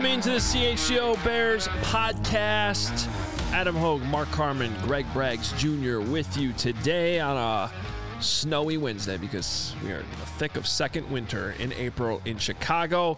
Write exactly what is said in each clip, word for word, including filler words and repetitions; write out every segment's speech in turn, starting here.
Welcome into the C H G O Bears podcast. Adam Hogue, Mark Carman, Greg Braggs Junior with you today on a snowy Wednesday because we are in the thick of second winter in April in Chicago.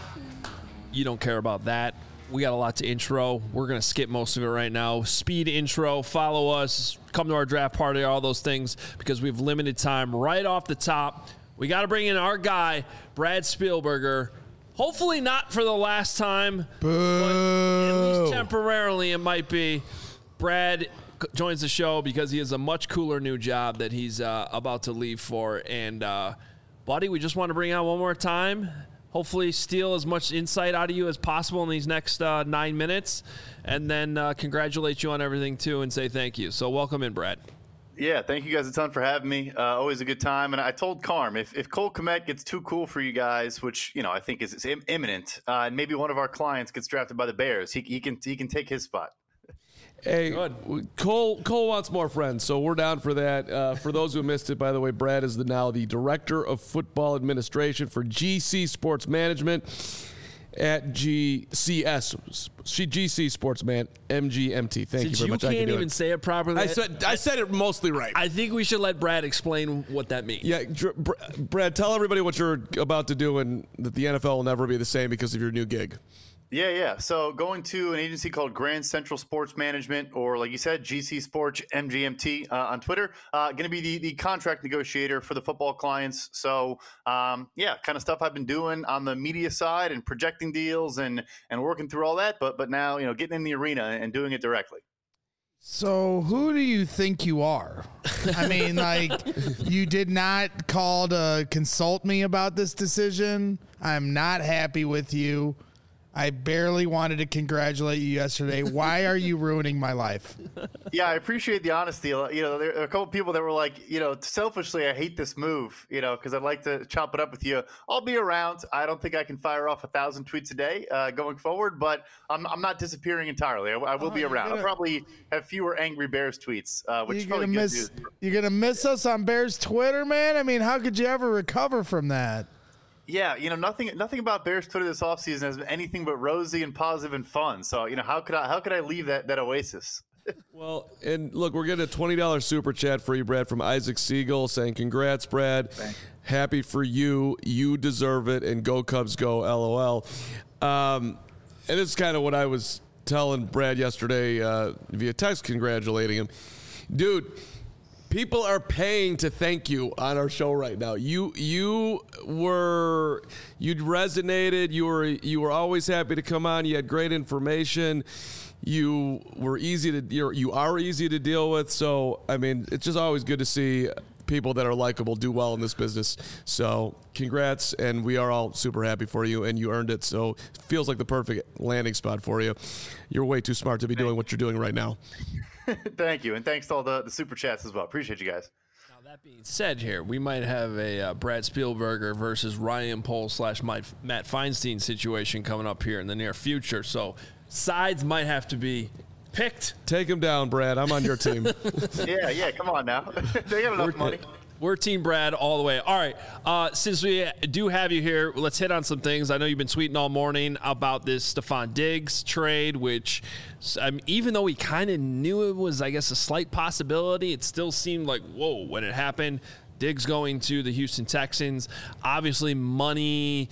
You don't care about that. We got a lot to intro. We're going to skip most of it right now. Speed intro, follow us, come to our draft party, all those things, because we have limited time. Right off the top, we got to bring in our guy, Brad Spielberger. Hopefully not for the last time, Boo. but at least temporarily it might be. Brad joins the show because he has a much cooler new job that he's uh, about to leave for. And, uh, buddy, we just want to bring out one more time. Hopefully steal as much insight out of you as possible in these next uh, nine minutes. And then uh, congratulate you on everything, too, and say thank you. So welcome in, Brad. Yeah, thank you guys a ton for having me. Uh, always a good time. And I told Carm, if, if Cole Kmet gets too cool for you guys, which, you know, I think is, is im- imminent, uh, and maybe one of our clients gets drafted by the Bears, he, he can he can take his spot. Hey, Cole Cole wants more friends, so we're down for that. Uh, for those who missed it, by the way, Brad is the, now the Director of Football Administration for G C Sports Management at G C S, G C Sports Man, M G M T. Thank Since you very you much. can't I can even it. say it properly. I said I said it mostly right. I think we should let Brad explain what that means. Yeah, Brad, tell everybody what you're about to do and that the N F L will never be the same because of your new gig. Yeah, yeah. So going to an agency called Grand Central Sports Management, or like you said, G C Sports M G M T uh, on Twitter. Uh, going to be the, the contract negotiator for the football clients. So, um, yeah, kind of stuff I've been doing on the media side and projecting deals and and working through all that. But but now, you know, getting in the arena and doing it directly. So who do you think you are? I mean, like, you did not call to consult me about this decision. I'm not happy with you. I barely wanted to congratulate you yesterday. Why are you ruining my life? Yeah, I appreciate the honesty. You know, there are a couple people that were like, you know, selfishly, I hate this move, you know, because I'd like to chop it up with you. I'll be around. I don't think I can fire off a thousand tweets a day uh, going forward, but I'm, I'm not disappearing entirely. I, I will oh, be around. Gonna, I'll probably have fewer Angry Bears tweets, uh, which is probably gonna good miss, news. You're going to miss us on Bears Twitter, man? I mean, how could you ever recover from that? Yeah, you know, nothing nothing about Bears Twitter this offseason has been anything but rosy and positive and fun. So, you know, how could I how could I leave that, that oasis? Well, and look, we're getting a twenty dollars super chat for you, Brad, from Isaac Siegel saying, congrats, Brad. Thanks. Happy for you. You deserve it. And go Cubs go, LOL. Um, and it's kind of what I was telling Brad yesterday uh, via text, congratulating him. Dude, people are paying to thank you on our show right now. You you were you resonated. You were you were always happy to come on. You had great information. You were easy to you're, you are easy to deal with. So I mean, it's just always good to see people that are likable do well in this business. So congrats, and we are all super happy for you, and you earned it. So it feels like the perfect landing spot for you. You're way too smart to be doing what you're doing right now. Thank you, and thanks to all the, the super chats as well. Appreciate you guys. Now, that being said here, we might have a uh, Brad Spielberger versus Ryan Poles slash Matt Feinstein situation coming up here in the near future. So sides might have to be picked. Take him down, Brad. I'm on your team. yeah, yeah, come on now. They got enough We're, money. We're Team Brad all the way. All right, uh, since we do have you here, let's hit on some things. I know you've been tweeting all morning about this Stephon Diggs trade, which um, even though we kind of knew it was, I guess, a slight possibility, it still seemed like, whoa, when it happened. Diggs going to the Houston Texans. Obviously, money,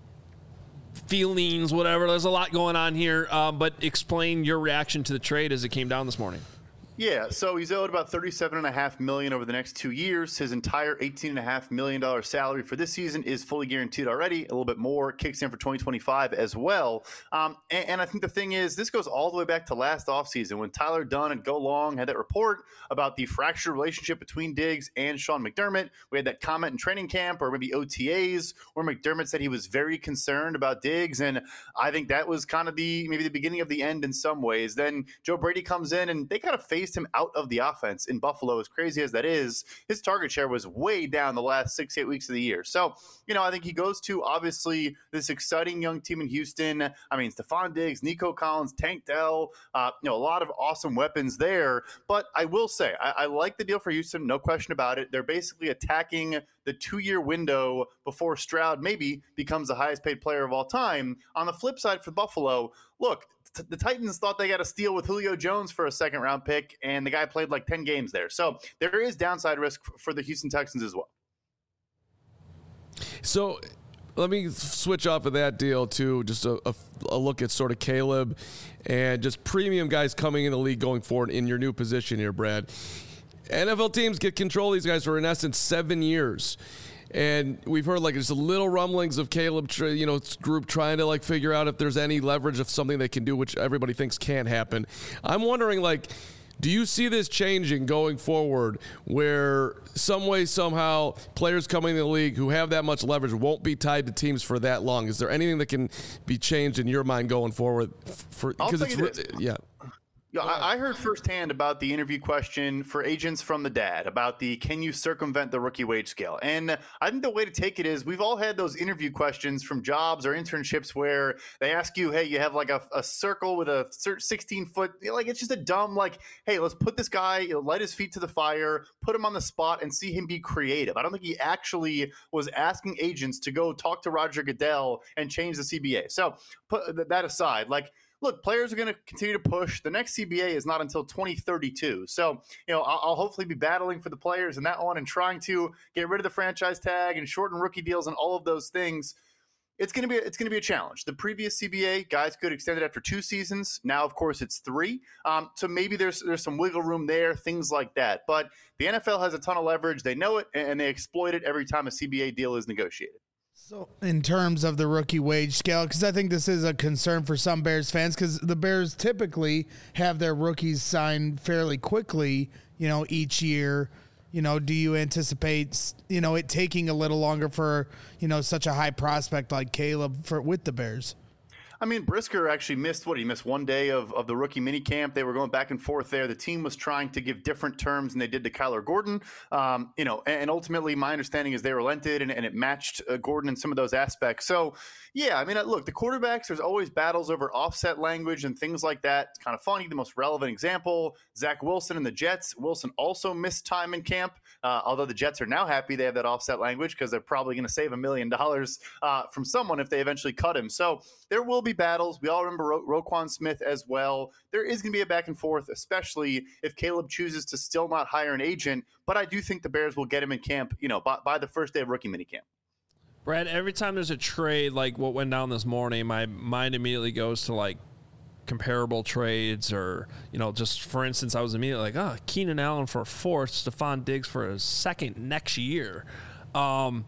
feelings, whatever. There's a lot going on here, uh, but explain your reaction to the trade as it came down this morning. Yeah, so he's owed about thirty-seven point five million dollars over the next two years. His entire eighteen point five million dollars salary for this season is fully guaranteed already. A little bit more kicks in for twenty twenty-five as well. Um, and, and I think the thing is, this goes all the way back to last offseason when Tyler Dunn and Go Long had that report about the fractured relationship between Diggs and Sean McDermott. We had that comment in training camp or maybe O T As where McDermott said he was very concerned about Diggs. And I think that was kind of the maybe the beginning of the end in some ways. Then Joe Brady comes in and they kind of fade phased him out of the offense in Buffalo. As crazy as that is, his target share was way down the last six, eight weeks of the year. So, you know, I think he goes to, obviously, this exciting young team in Houston. I mean, Stephon Diggs, Nico Collins, Tank Dell, uh, you know, a lot of awesome weapons there. But I will say, I, I like the deal for Houston, no question about it. They're basically attacking the two-year window before Stroud maybe becomes the highest-paid player of all time. On the flip side for Buffalo, look, t- the Titans thought they got a steal with Julio Jones for a second-round pick, and the guy played like ten games there. So there is downside risk f- for the Houston Texans as well. So let me switch off of that deal to just a, a, a look at sort of Caleb and just premium guys coming in the league going forward in your new position here, Brad. N F L teams get control of these guys for, in essence, seven years. And we've heard like there's a little rumblings of Caleb, you know, group trying to like figure out if there's any leverage of something they can do, which everybody thinks can't happen. I'm wondering, like, do you see this changing going forward where some way, somehow, players coming in the league who have that much leverage won't be tied to teams for that long? Is there anything that can be changed in your mind going forward? For, I'll tell it's, you this. Yeah. Yeah, I, I heard firsthand about the interview question for agents from the dad about the can you circumvent the rookie wage scale? And I think the way to take it is we've all had those interview questions from jobs or internships where they ask you, hey, you have like a, a circle with a sixteen foot, like it's just a dumb, like, hey, let's put this guy, you know, light his feet to the fire, put him on the spot and see him be creative. I don't think he actually was asking agents to go talk to Roger Goodell and change the C B A. So put that aside, like, look, players are going to continue to push. The next C B A is not until twenty thirty-two. So, you know, I'll, I'll hopefully be battling for the players in that one and trying to get rid of the franchise tag and shorten rookie deals and all of those things. It's going to be it's going to be a challenge. The previous C B A, guys could extend it after two seasons. Now, of course, it's three. Um, so maybe there's there's some wiggle room there, things like that. But the N F L has a ton of leverage. They know it, and they exploit it every time a C B A deal is negotiated. So in terms of the rookie wage scale, because I think this is a concern for some Bears fans, because the Bears typically have their rookies signed fairly quickly, you know, each year. You know, do you anticipate, you know, it taking a little longer for, you know, such a high prospect like Caleb for with the Bears? I mean, Brisker actually missed what he missed one day of, of the rookie minicamp. They were going back and forth there. The team was trying to give different terms than they did to Kyler Gordon. Um, you know, and, and ultimately my understanding is they relented and, and it matched uh, Gordon in some of those aspects. So, yeah, I mean, look, the quarterbacks, there's always battles over offset language and things like that. It's kind of funny. The most relevant example, Zach Wilson and the Jets. Wilson also missed time in camp, uh, although the Jets are now happy they have that offset language because they're probably going to save a million dollars uh, from someone if they eventually cut him. So there will be battles. We all remember Ro- Roquan Smith as well. There is going to be a back and forth, especially if Caleb chooses to still not hire an agent. But I do think the Bears will get him in camp, you know, by, by the first day of rookie minicamp. Brad, every time there's a trade like what went down this morning, my mind immediately goes to like comparable trades or, you know, just for instance, I was immediately like, oh, Keenan Allen for a fourth, Stephon Diggs for a second next year. Um,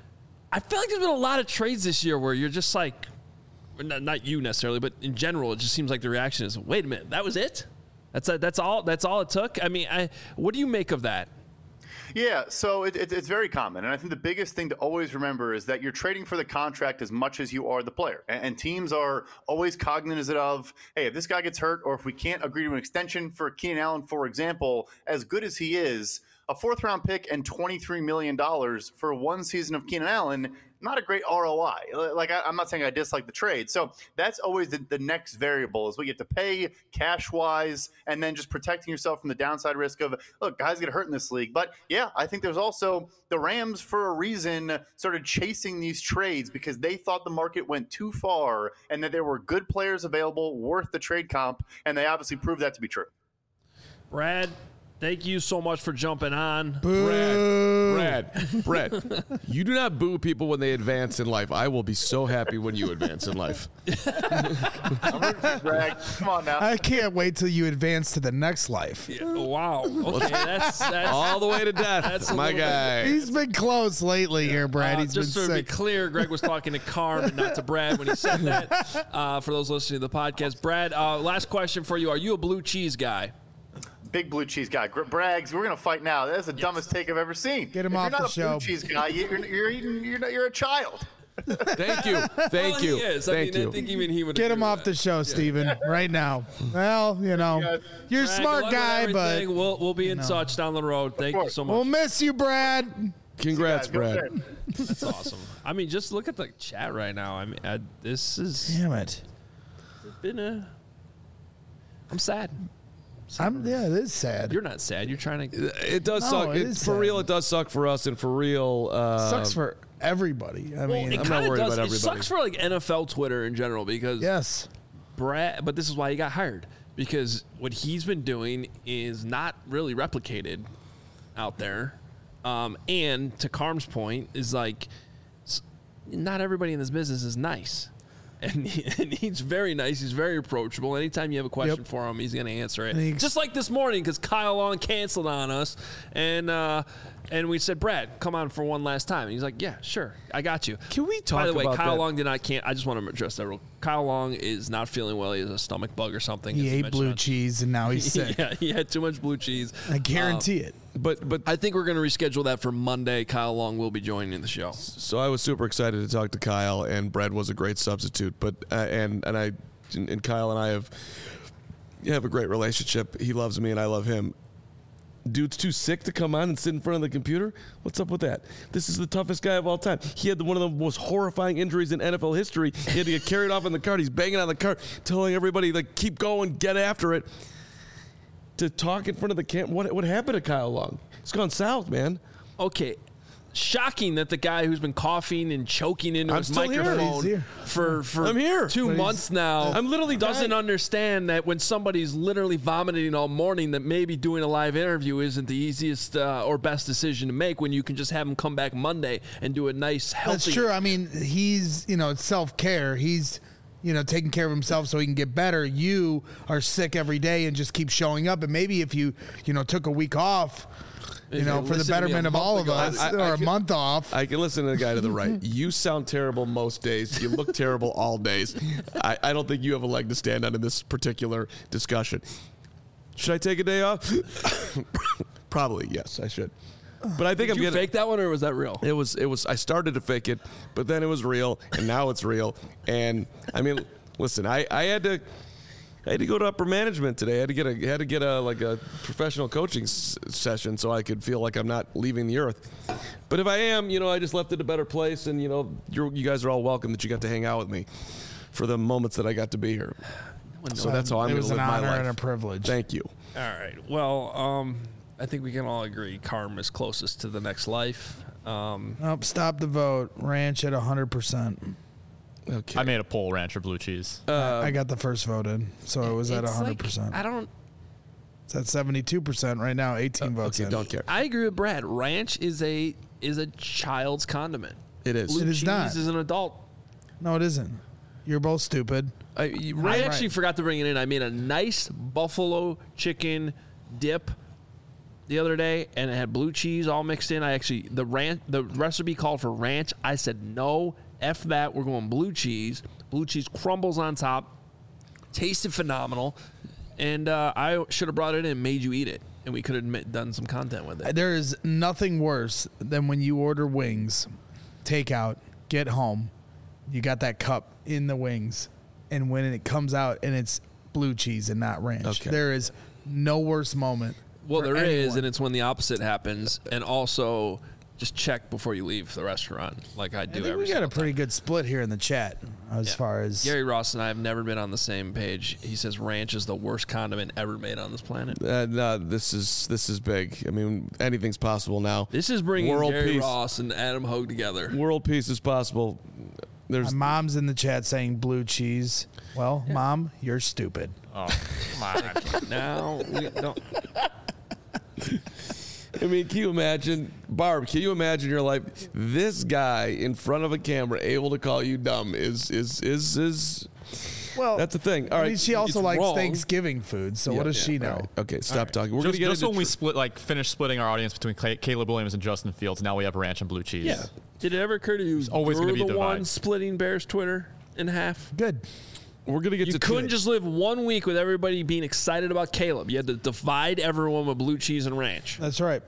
I feel like there's been a lot of trades this year where you're just like, not, not you necessarily, but in general, it just seems like the reaction is, wait a minute, that was it? That's a, that's all. That's all it took. I mean, I, what do you make of that? Yeah, so it, it, it's very common. And I think the biggest thing to always remember is that you're trading for the contract as much as you are the player. And, and teams are always cognizant of, hey, if this guy gets hurt or if we can't agree to an extension for Keenan Allen, for example, as good as he is, a fourth-round pick and twenty-three million dollars for one season of Keenan Allen, not a great R O I. Like, I, I'm not saying I dislike the trade. So that's always the, the next variable is what you have to pay cash-wise and then just protecting yourself from the downside risk of, look, guys get hurt in this league. But, yeah, I think there's also the Rams, for a reason, started chasing these trades because they thought the market went too far and that there were good players available worth the trade comp, and they obviously proved that to be true. Brad, thank you so much for jumping on. Brad, Brad, Brad, you do not boo people when they advance in life. I will be so happy when you advance in life. I'm rooting for Greg. Come on now. I can't wait till you advance to the next life. Yeah, wow. Okay, that's, that's all the way to death. That's my guy. Bit, He's been close lately yeah. here, Brad. Uh, He's just been to sick. be clear, Greg was talking to Carm and not to Brad when he said that. Uh, for those listening to the podcast, Brad, uh, last question for you: are you a blue cheese guy? Big blue cheese guy. Braggs, we're going to fight now. That's the yes. dumbest take I've ever seen. Get him if off you're the not show. a blue cheese guy, you're, you're, eating, you're, you're a child. Thank you. Thank Well, you. He is. Thank I mean, you. I think even he would Get agree him with off that. the show, Steven, right now. Well, you know, you're a Brad, smart good luck with guy, but everything. we'll we'll be in touch down the road. Thank you so much. we'll miss you, Brad. Congrats, Go Brad. ahead. That's awesome. I mean, just look at the chat right now. I mean, I, this has Damn it. been a. I'm sad. I'm, yeah, it is sad. You're not sad. You're trying to. It does No, suck. it It- is for sad. real, it does suck for us, and for real, uh, Sucks for everybody. I Well, mean, it I'm not kind of worried does. about It everybody. sucks for like N F L Twitter in general because yes. Brad. But this is why he got hired because what he's been doing is not really replicated out there. Um, and to Carm's point, is like s- not everybody in this business is nice. And, he, and he's very nice. He's very approachable. Anytime you have a question Yep. for him, he's going to answer it. And he ex- Just like this morning, because Kyle Long canceled on us, and uh, and we said, Brad, come on for one last time. And he's like, yeah, sure, I got you. Can we talk By the way, about Kyle that? Long did not can. I just want to address that real. Kyle Long is not feeling well. He has a stomach bug or something. He as ate mentioned blue on- cheese and now he's sick. Yeah, he had too much blue cheese. I guarantee it. but but I think we're going to reschedule that for Monday. Kyle Long will be joining the show. so I was super excited to talk to Kyle, and Brad was a great substitute. But uh, and and I and Kyle and I have have a great relationship. He loves me, and I love him. Dude's too sick to come on and sit in front of the computer. What's up with that? This is the toughest guy of all time. He had the, one of the most horrifying injuries in N F L history. He had to get carried off in the cart. He's banging on the cart, telling everybody like, "Keep going, get after it." To talk in front of the camp. What what happened to Kyle Long? It's gone south, man. Okay. Shocking that the guy who's been coughing and choking into I'm his still here. microphone He's here. for for I'm here. two But he's- months now. I'm literally doesn't dying. understand that when somebody's literally vomiting all morning, that maybe doing a live interview isn't the easiest uh, or best decision to make when you can just have him come back Monday and do a nice healthy. That's true. I mean, he's, you know, it's self-care. He's, you know, taking care of himself so he can get better. You are sick every day and just keep showing up. And maybe if you, you know, took a week off, you If know, you for the listened to me a betterment of month all of ago, us, I- I- or I a can- month off. I can listen to the guy to the right. You sound terrible most days. You look terrible all days. I, I don't think you have a leg to stand on in this particular discussion. Should I take a day off? Probably, yes, I should. But I think Did I'm you getting. fake that one or was that real? It was. It was. I started to fake it, but then it was real, and now it's real. And I mean, listen, I, I had to. I had to go to upper management today. I had to get a had to get a like a professional coaching s- session so I could feel like I'm not leaving the earth. But if I am, you know, I just left it a better place, and you know, you're, you guys are all welcome that you got to hang out with me for the moments that I got to be here. So that's how I'm it going was to live an my honor life. and a privilege. Thank you. All right. Well, um, I think we can all agree Carm is closest to the next life. Um, Nope, stop the vote. Ranch at one hundred percent. Okay. I made a poll, ranch or blue cheese. I got the first vote in, so it was at it's one hundred like- percent. I don't. It's at seventy-two percent right now, eighteen votes okay, in. don't care. I agree with Brad. Ranch is a is a child's condiment. It is. Blue It is cheese not. is an adult. No, it isn't. You're both stupid. I, you- I Right. actually forgot to bring it in. I made a nice buffalo chicken dip the other day, and it had blue cheese all mixed in. I actually the ranch the recipe called for ranch. I said no, f that. We're going blue cheese. Blue cheese crumbles on top. Tasted phenomenal, and uh, I should have brought it in and made you eat it, and we could have ma- done some content with it. There is nothing worse than when you order wings, take out, get home, you got that cup in the wings, and when it comes out and it's blue cheese and not ranch. Okay. There is no worse moment. Well, for there is, anyone. and it's when the opposite happens, and also just check before you leave the restaurant, like I do I think every we got a single pretty time. good split here in the chat as Yeah. far as Gary Ross and I have never been on the same page. He says ranch is the worst condiment ever made on this planet. Uh, no, this is this is big. I mean, anything's possible now. This is bringing World Gary peace. Ross and Adam Hogue together. World peace is possible. There's my mom's in the chat saying blue cheese. Well, mom, you're stupid. Oh, come on. Now we don't. I mean, can you imagine, Barb? Can you imagine your life? This guy in front of a camera, able to call you dumb, is is is is. Well, That's the thing. All I right, mean, she also it's likes wrong. Thanksgiving food, so what Yeah, does she yeah, know? all right. Okay, stop talking. We're just gonna get just into when we tr- split, like, finish splitting our audience between Cla- Caleb Williams and Justin Fields, now we have ranch and blue cheese. Yeah. Did it ever occur to you? always you're gonna be the divide. one splitting Bears Twitter in half. Good. We're gonna get You to couldn't today. just live one week with everybody being excited about Caleb. You had to divide everyone with blue cheese and ranch. That's right.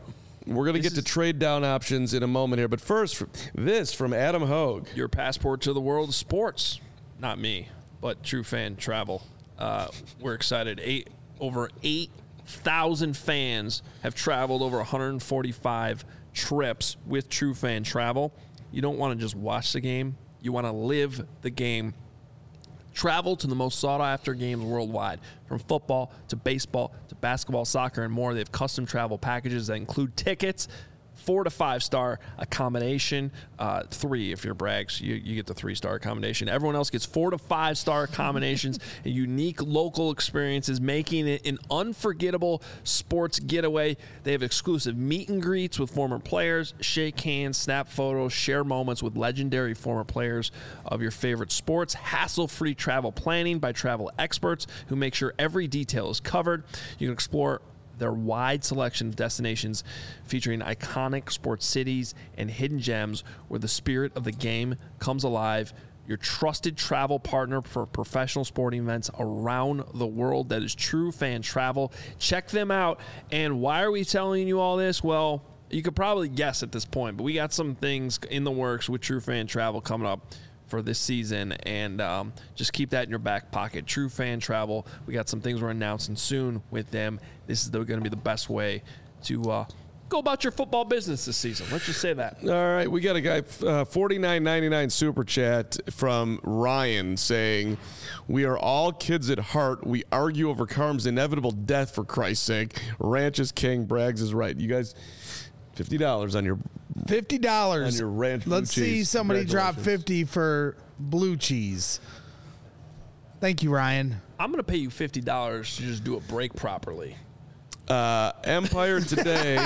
We're going to get is- to trade down options in a moment here. But first, this from Adam Hogue. Your passport to the world of sports. Not me, but True Fan Travel. Uh, we're excited. Eight over eight thousand fans have traveled over one hundred forty-five trips with True Fan Travel. You don't want to just watch the game. You want to live the game. Travel to the most sought-after games worldwide, from football to baseball to basketball, soccer, and more. They have custom travel packages that include tickets, four to five-star accommodation, uh, three if you're Brags, you, you get the three-star accommodation. Everyone else gets four to five-star accommodations and unique local experiences, making it an unforgettable sports getaway. They have exclusive meet and greets with former players, shake hands, snap photos, share moments with legendary former players of your favorite sports, hassle-free travel planning by travel experts who make sure every detail is covered. You can explore their wide selection of destinations featuring iconic sports cities and hidden gems where the spirit of the game comes alive. Your trusted travel partner for professional sporting events around the world. That is True Fan Travel. Check them out. And why are we telling you all this? Well, you could probably guess at this point, but we got some things in the works with True Fan Travel coming up for this season, and um, just keep that in your back pocket. True Fan Travel, we got some things we're announcing soon with them. This is going to be the best way to uh, go about your football business this season. Let's just say that. All right, we got a guy, uh, forty-nine ninety-nine super chat from Ryan saying, "We are all kids at heart. We argue over Carm's inevitable death, for Christ's sake. Ranch is king. Braggs is right." You guys, fifty dollars on your Fifty dollars. on your ranch blue Let's see cheese. somebody drop Congratulations. fifty for blue cheese. Thank you, Ryan. I'm going to pay you fifty dollars to just do a break properly. Uh, Empire Today.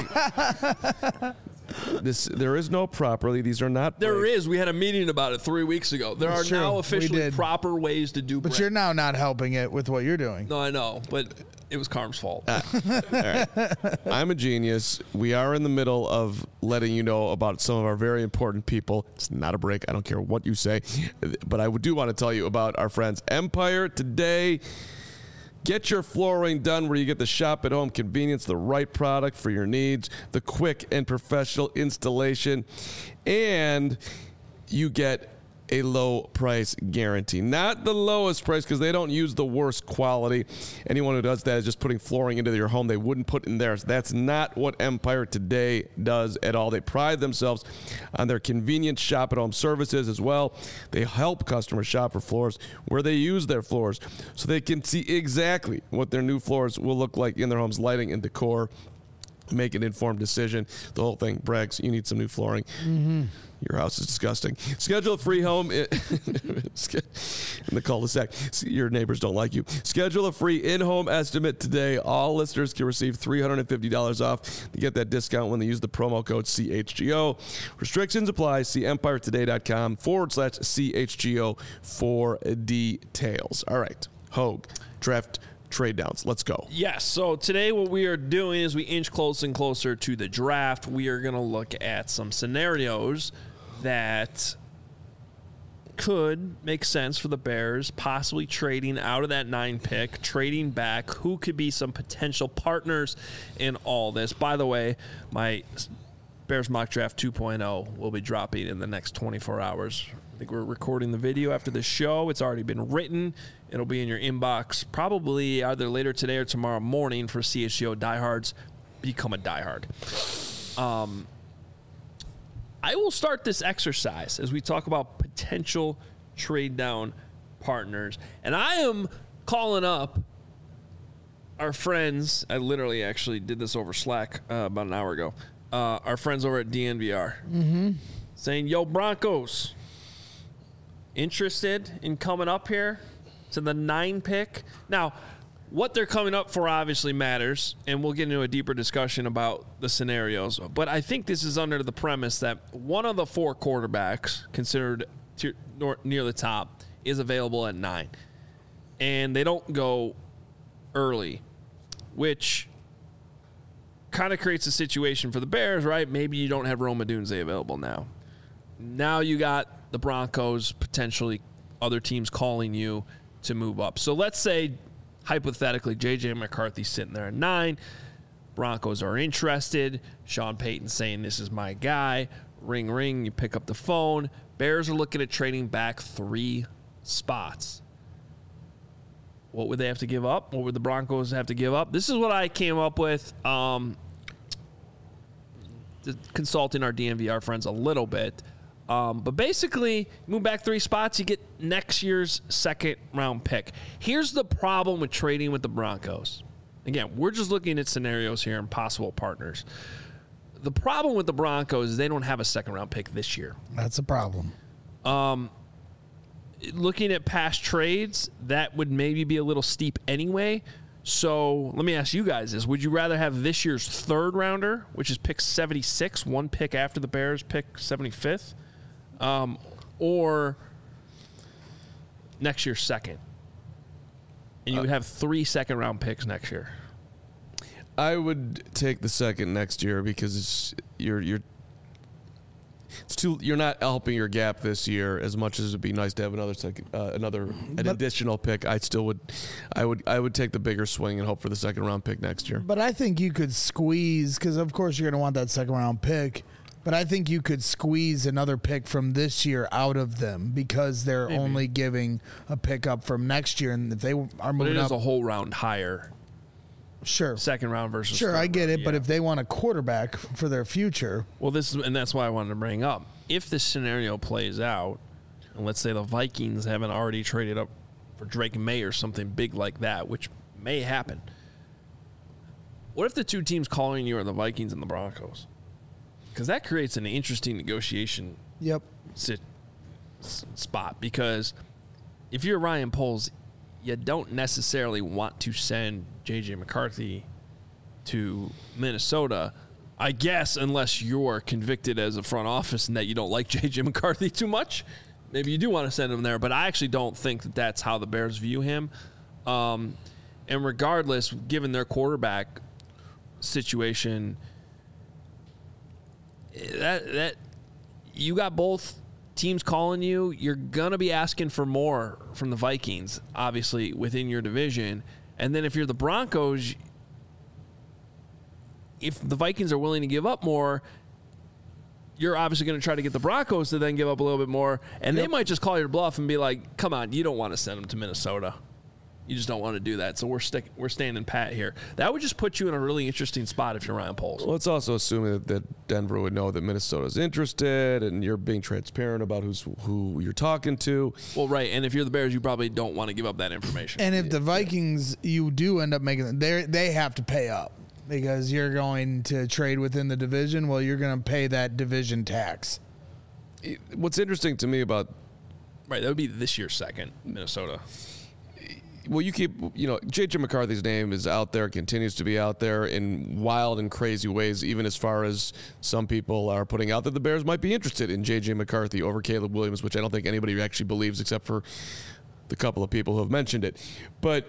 This there is no properly. These are not. There breaks. is. We had a meeting about it three weeks ago. There That's are true. now We officially did. proper ways to do But break. you're now not helping it with what you're doing. No, I know, but it was Carm's fault. I'm a genius. We are in the middle of letting you know about some of our very important people. It's not a break. I don't care what you say. But I do want to tell you about our friends Empire Today. Get your flooring done where you get the shop at home convenience, the right product for your needs, the quick and professional installation, and you get a low price guarantee. Not the lowest price, because they don't use the worst quality. Anyone who does that is just putting flooring into your home they wouldn't put in theirs. That's not what Empire Today does at all. They pride themselves on their convenient shop at home services as well. They help customers shop for floors where they use their floors so they can see exactly what their new floors will look like in their home's lighting and decor. Make an informed decision. The whole thing. Braggs, you need some new flooring. Mm-hmm. Your house is disgusting. Schedule a free home in the cul-de-sac. Your neighbors don't like you. Schedule a free in-home estimate today. All listeners can receive three hundred fifty dollars off to get that discount when they use the promo code C H G O. Restrictions apply. See empiretoday.com forward slash CHGO for details. All right. Hogue, draft trade downs. Let's go. Yes. So today what we are doing is we inch closer and closer to the draft. We are going to look at some scenarios that could make sense for the Bears, possibly trading out of that nine pick, trading back. Who could be some potential partners in all this? By the way, my Bears Mock Draft two point oh will be dropping in the next twenty-four hours. I think we're recording the video after the show. It's already been written. It'll be in your inbox probably either later today or tomorrow morning for C H G O diehards. Become a diehard. Um, I will start this exercise as we talk about potential trade down partners. And I am calling up our friends. I literally actually did this over Slack uh, about an hour ago. Uh, our friends over at D N V R. Mm-hmm. Saying, yo, Broncos, interested in coming up here to the nine pick? Now, what they're coming up for obviously matters, and we'll get into a deeper discussion about the scenarios. But I think this is under the premise that one of the four quarterbacks considered to, nor, near the top is available at nine. And they don't go early, which kind of creates a situation for the Bears, right? Maybe you don't have Rome Odunze available now. Now you got the Broncos, potentially other teams calling you to move up. So let's say, hypothetically, J J McCarthy's sitting there at nine. Broncos are interested. Sean Payton saying, this is my guy. Ring, ring. You pick up the phone. Bears are looking at trading back three spots. What would they have to give up? What would the Broncos have to give up? This is what I came up with. Um, consulting our D N V R friends a little bit. Um, but basically, move back three spots, you get next year's second round pick. Here's the problem with trading with the Broncos. Again, we're just looking at scenarios here and possible partners. The problem with the Broncos is they don't have a second round pick this year. That's a problem. Um, looking at past trades, that would maybe be a little steep anyway. So let me ask you guys this. Would you rather have this year's third rounder, which is pick seventy-six, one pick after the Bears pick seventy-fifth, um, or next year's second? And you would have three second round picks next year. I would take the second next year because it's, you're you're it's too you're not helping your gap this year as much as it'd be nice to have another second uh, another an But- additional pick. I still would I would I would take the bigger swing and hope for the second round pick next year. But I think you could squeeze, because of course you're going to want that second round pick. But I think you could squeeze another pick from this year out of them because they're Maybe. only giving a pick up from next year. And if they are But moving it is up, a whole round higher, sure. second round versus Sure, third I get round, it. But yeah. if they want a quarterback for their future, Well, this is, and that's why I wanted to bring up. If this scenario plays out, and let's say the Vikings haven't already traded up for Drake May or something big like that, which may happen. What if the two teams calling you are the Vikings and the Broncos? Because that creates an interesting negotiation yep. sit, s- spot. Because if you're Ryan Poles, you don't necessarily want to send J J McCarthy to Minnesota, I guess, unless you're convicted as a front office and that you don't like J J McCarthy too much. Maybe you do want to send him there, but I actually don't think that that's how the Bears view him. Um, and regardless, given their quarterback situation, that that you got both teams calling you, you're gonna be asking for more from the Vikings, obviously within your division. And then if you're the Broncos, if the Vikings are willing to give up more, you're obviously going to try to get the Broncos to then give up a little bit more, and they might just call your bluff and be like, come on, you don't want to send them to Minnesota. You just don't want to do that. So we're stick, we're standing pat here. That would just put you in a really interesting spot if you're Ryan Poles. Well, it's also assuming that, that Denver would know that Minnesota's interested, and you're being transparent about who's who you're talking to. Well, right, and if you're the Bears, you probably don't want to give up that information. And if the Vikings, you do end up making, they they have to pay up because you're going to trade within the division. Well, you're going to pay that division tax. What's interesting to me about right, that would be this year's second, Minnesota. well, you keep, you know, J J McCarthy's name is out there, continues to be out there in wild and crazy ways, even as far as some people are putting out that the Bears might be interested in J J McCarthy over Caleb Williams, which I don't think anybody actually believes except for the couple of people who have mentioned it. But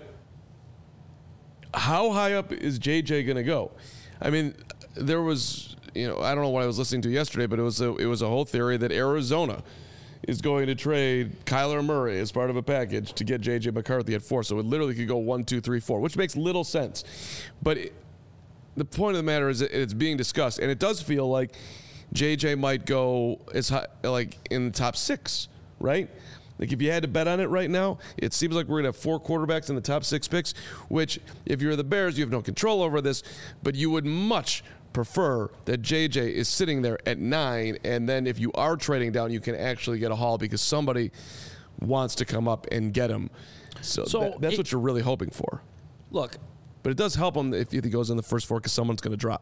how high up is J J going to go? I mean, there was, you know, I don't know what I was listening to yesterday, but it was a, it was a whole theory that Arizona is going to trade Kyler Murray as part of a package to get J J McCarthy at four. So it literally could go one, two, three, four, which makes little sense. But it, the point of the matter is that it's being discussed, and it does feel like J J might go as high, like in the top six, right? Like if you had to bet on it right now, it seems like we're going to have four quarterbacks in the top six picks, which if you're the Bears, you have no control over this, but you would much prefer that J J is sitting there at nine, and then if you are trading down, you can actually get a haul because somebody wants to come up and get him. So, So that, that's it- what you're really hoping for. Look, But it does help him if he goes in the first four because someone's going to drop.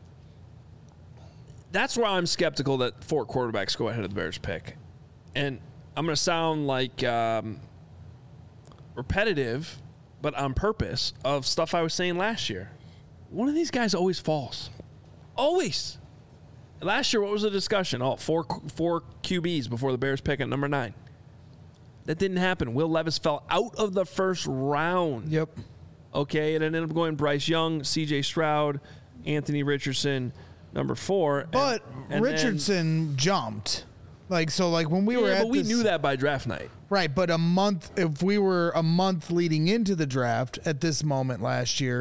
that's where I'm skeptical that four quarterbacks go ahead of the Bears pick. And I'm going to sound like um, repetitive, but on purpose, of stuff I was saying last year. One of these guys always falls. Always. Last year, what was the discussion? Oh, four, four Q Bs before the Bears pick at number nine. That didn't happen. Will Levis fell out of the first round. Yep. Okay, and it ended up going Bryce Young, C J Stroud, Anthony Richardson, number four. But and, and Richardson jumped. Like, so like when we Then, were yeah, at but we this, knew that by draft night. Right, but a month, if we were a month leading into the draft at this moment last year,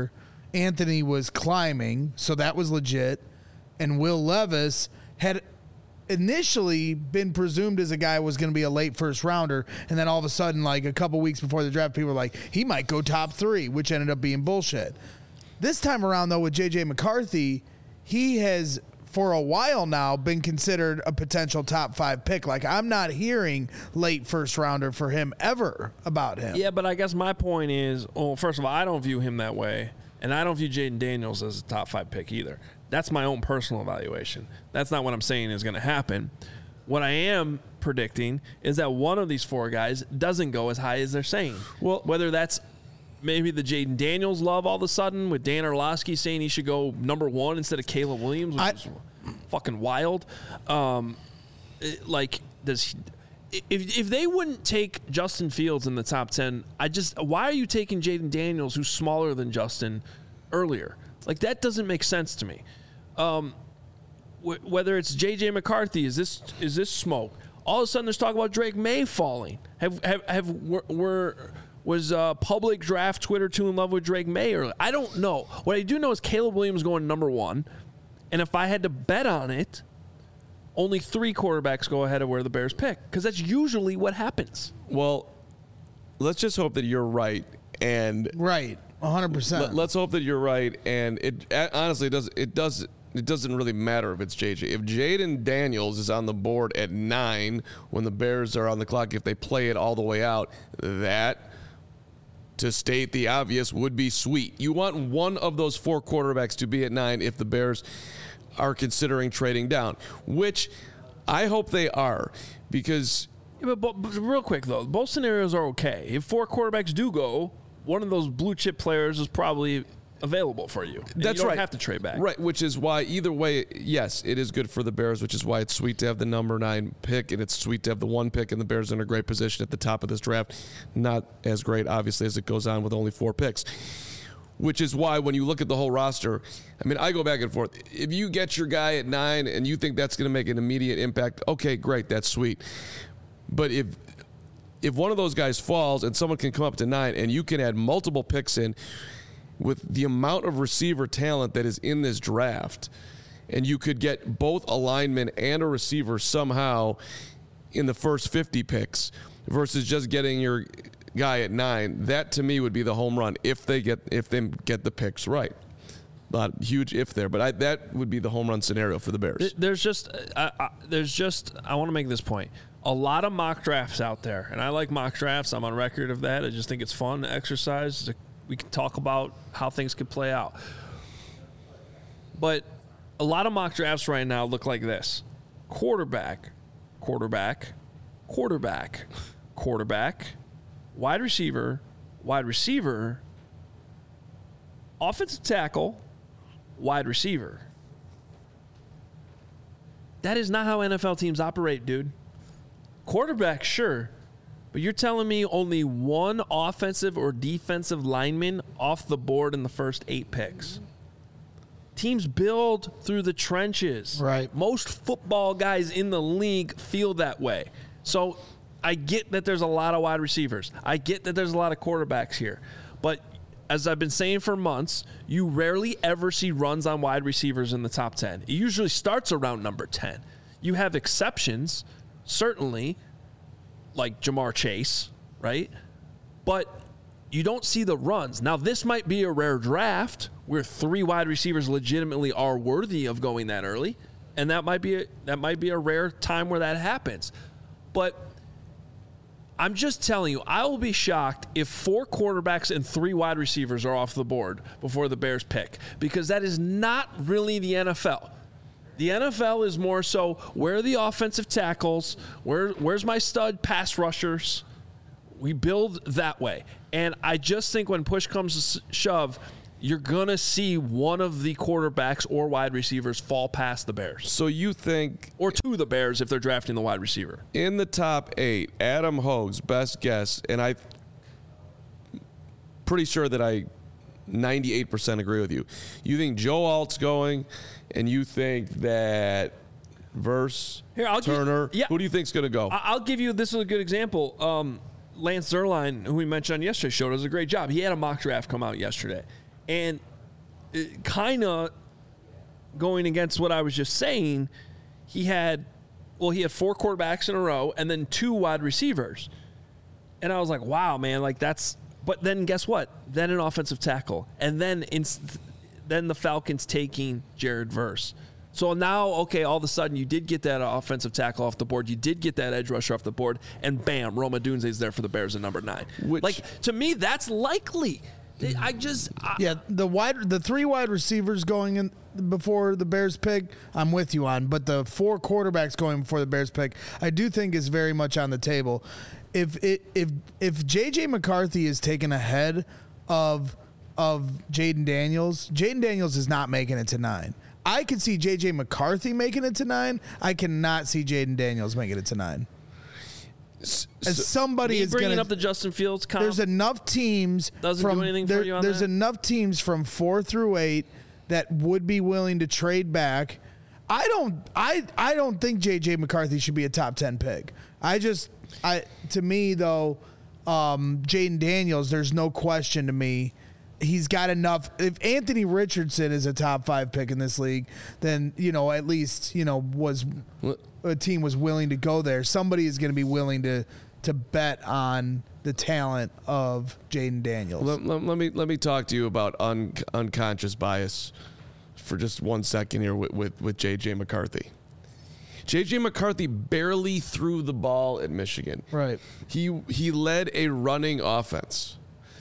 Anthony was climbing, so that was legit. And Will Levis had initially been presumed as a guy who was going to be a late first rounder, and then all of a sudden, like a couple weeks before the draft, people were like, he might go top three, which ended up being bullshit. This time around, though, with J J McCarthy, he has, for a while now, been considered a potential top five pick. Like, I'm not hearing late first rounder for him ever about him. Yeah, but I guess my point is, well, first of all, I don't view him that way, and I don't view Jaden Daniels as a top five pick either. That's my own personal evaluation. That's not what I'm saying is going to happen. What I am predicting is that one of these four guys doesn't go as high as they're saying. Well, whether that's maybe the Jaden Daniels love all of a sudden with Dan Orlovsky saying he should go number one instead of Caleb Williams, which I, is fucking wild. Um, it, like, does he, if if they wouldn't take Justin Fields in the top ten, I just why are you taking Jaden Daniels, who's smaller than Justin, earlier? Like, that doesn't make sense to me. Um, wh- whether it's J J McCarthy, is this is this smoke? All of a sudden, there's talk about Drake May falling. Have have have were, were was uh, public draft Twitter too in love with Drake May? Or I don't know. What I do know is Caleb Williams going number one, and if I had to bet on it, only three quarterbacks go ahead of where the Bears pick, because that's usually what happens. Well, let's just hope that you're right, and right, one hundred percent. Let, let's hope that you're right, and it honestly it does it does it doesn't really matter if it's J J. If Jaden Daniels is on the board at nine when the Bears are on the clock, if they play it all the way out, that, to state the obvious, would be sweet. You want one of those four quarterbacks to be at nine if the Bears are considering trading down, which I hope they are, because Yeah, but, but real quick, though, both scenarios are okay. If four quarterbacks do go, one of those blue chip players is probably available for you. And that's you don't right. have to trade back. Right, which is why either way, yes, it is good for the Bears, which is why it's sweet to have the number nine pick, and it's sweet to have the one pick, and the Bears are in a great position at the top of this draft. Not as great, obviously, as it goes on with only four picks. Which is why when you look at the whole roster, I mean, I go back and forth. If you get your guy at nine and you think that's going to make an immediate impact, okay, great, that's sweet. But if if one of those guys falls and someone can come up to nine and you can add multiple picks in with the amount of receiver talent that is in this draft, and you could get both a lineman and a receiver somehow in the first fifty picks versus just getting your guy at nine, that to me would be the home run if they get if they get the picks right. Not huge if there, but I, that would be the home run scenario for the Bears. There's just, I, I, there's just, I want to make this point. A lot of mock drafts out there, and I like mock drafts. I'm on record of that. I just think it's fun exercise. We can talk about how things could play out. But a lot of mock drafts right now look like this: quarterback, quarterback, quarterback, quarterback, wide receiver, wide receiver, offensive tackle, wide receiver. That is not how N F L teams operate, dude. Quarterback, sure, but you're telling me only one offensive or defensive lineman off the board in the first eight picks. Teams build through the trenches. Right. Most football guys in the league feel that way. So I get that there's a lot of wide receivers. I get that there's a lot of quarterbacks here. But as I've been saying for months, you rarely ever see runs on wide receivers in the top ten. It usually starts around number ten. You have exceptions, certainly, like Jamar Chase, right? But you don't see the runs. Now, this might be a rare draft where three wide receivers legitimately are worthy of going that early, and that might be a, that might be a rare time where that happens. But I'm just telling you, I will be shocked if four quarterbacks and three wide receivers are off the board before the Bears pick, because that is not really the N F L. The N F L is more so, where are the offensive tackles? Where, where's my stud pass rushers? We build that way. And I just think when push comes to shove, you're going to see one of the quarterbacks or wide receivers fall past the Bears. So you think, or to the Bears if they're drafting the wide receiver. in the top eight, Adam Hogue's best guess, and I'm pretty sure that I ninety-eight percent agree with you. You think Joe Alt's going, and you think that Verse, Here, I'll give- Turner, yeah. who do you think's going to go? I- I'll give you, this is a good example. Um, Lance Zierlein, who we mentioned on yesterday's show, does a great job. He had a mock draft come out yesterday. And kind of going against what I was just saying, he had, well, he had four quarterbacks in a row and then two wide receivers. And I was like, wow, man, like that's, but then guess what? Then an offensive tackle. And then in, then the Falcons taking Jared Verse. So now, okay, all of a sudden you did get that offensive tackle off the board. You did get that edge rusher off the board. And bam, Roma Dunze's there for the Bears at number nine. Which, like, to me, that's likely. I just I, yeah the wide the three wide receivers going in before the Bears pick, I'm with you on, but the four quarterbacks going before the Bears pick, I do think is very much on the table. If it if if J J McCarthy is taken ahead of of Jaden Daniels, Jaden Daniels is not making it to nine. I can see J J McCarthy making it to nine. I cannot see Jaden Daniels making it to nine. As somebody Me is bringing gonna, up the Justin Fields comp, there's enough teams doesn't from do anything there, for you on there's that? enough teams from four through eight that would be willing to trade back. I don't I I don't think J J McCarthy should be a top ten pick. I just I to me though, um, Jaden Daniels, there's no question to me. He's got enough. If Anthony Richardson is a top five pick in this league, then, you know, at least, you know, was a team was willing to go there. Somebody is going to be willing to to bet on the talent of Jaden Daniels. Let, let, let me let me talk to you about un, unconscious bias for just one second here with, with, with J J McCarthy. J J McCarthy barely threw the ball at Michigan. Right. He he led a running offense.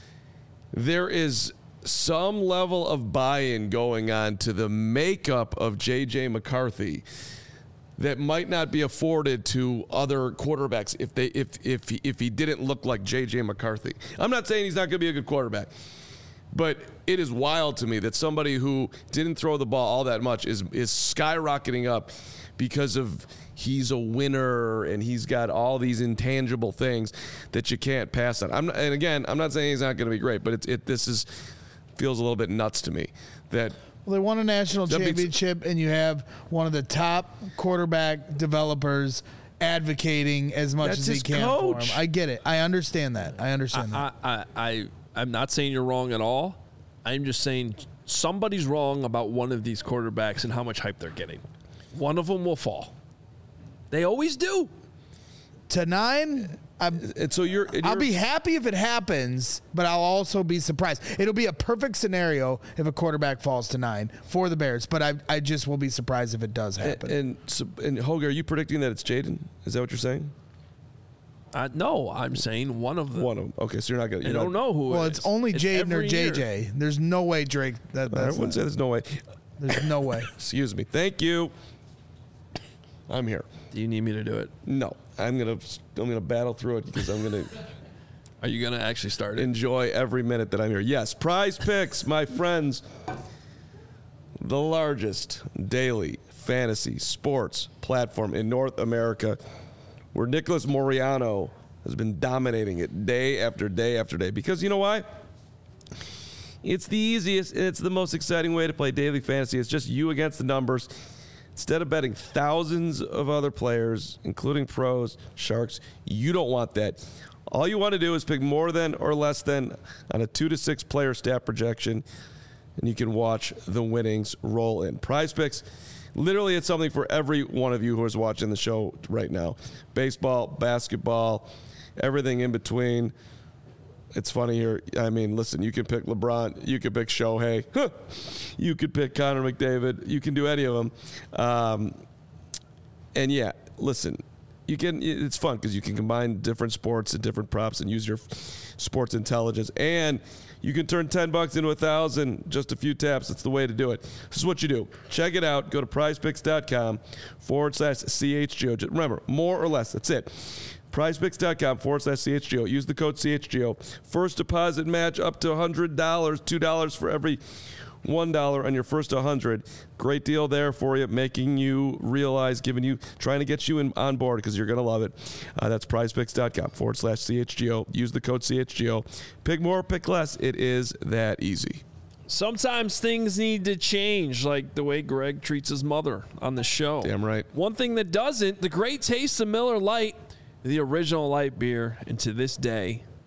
There is some level of buy-in going on to the makeup of J J McCarthy that might not be afforded to other quarterbacks if they if if he, if he didn't look like J J McCarthy. I'm not saying he's not going to be a good quarterback, but it is wild to me that somebody who didn't throw the ball all that much is is skyrocketing up because of he's a winner and he's got all these intangible things that you can't pass on. I'm not, and again, I'm not saying he's not going to be great, but it's it this is feels a little bit nuts to me that. Well, they won a national That means- championship, and you have one of the top quarterback developers advocating as much That's as he his can coach. for him. I get it. I understand that. I understand I, that. I, I, I'm not saying you're wrong at all. I'm just saying somebody's wrong about one of these quarterbacks and how much hype they're getting. One of them will fall. They always do. To nine, I'm, And so you're. and I'll you're- be happy if it happens, but I'll also be surprised. It'll be a perfect scenario if a quarterback falls to nine for the Bears, but I, I just will be surprised if it does happen. And, and, so, and Hoger, are you predicting that it's Jaden? Is that what you're saying? Uh, no, I'm saying one of them. One of them. Okay, so you're not going I to. don't know who well, it it's is. only It's Jaden or every J year. J. There's no way Drake. That, I that's wouldn't say not, there's no way. there's no way. Excuse me. Thank you. I'm here. Do you need me to do it? No, I'm gonna I'm gonna battle through it because I'm gonna Are you going to actually start it? enjoy every minute that I'm here. Yes, Prize Picks, my friends, the largest daily fantasy sports platform in North America, where Nicholas Moriano has been dominating it day after day after day. Because you know why? It's the easiest and it's the most exciting way to play daily fantasy. It's just you against the numbers. Instead of betting thousands of other players, including pros, sharks, you don't want that. All you want to do is pick more than or less than on a two to six player stat projection, and you can watch the winnings roll in. Prize Picks, literally it's something for every one of you who is watching the show right now. Baseball, basketball, everything in between. It's funny here. I mean, listen, you can pick LeBron. You can pick Shohei. Huh. You could pick Connor McDavid. You can do any of them. Um, and, yeah, listen, you can. It's fun because you can combine different sports and different props and use your sports intelligence. And you can turn ten bucks into a thousand, just a few taps. That's the way to do it. This is what you do. Check it out. Go to prizepicks.com forward slash CHGO. Just remember, more or less. That's it. prizepicks.com forward slash CHGO. Use the code C H G O. First deposit match up to one hundred dollars. two dollars for every one dollar on your first one hundred dollars. Great deal there for you, making you realize, giving you, trying to get you in, on board because you're going to love it. Uh, that's prizepicks.com forward slash CHGO. Use the code C H G O. Pick more, pick less. It is that easy. Sometimes things need to change, like the way Greg treats his mother on the show. Damn right. One thing that doesn't, the great taste of Miller Lite, the original light beer, and to this day,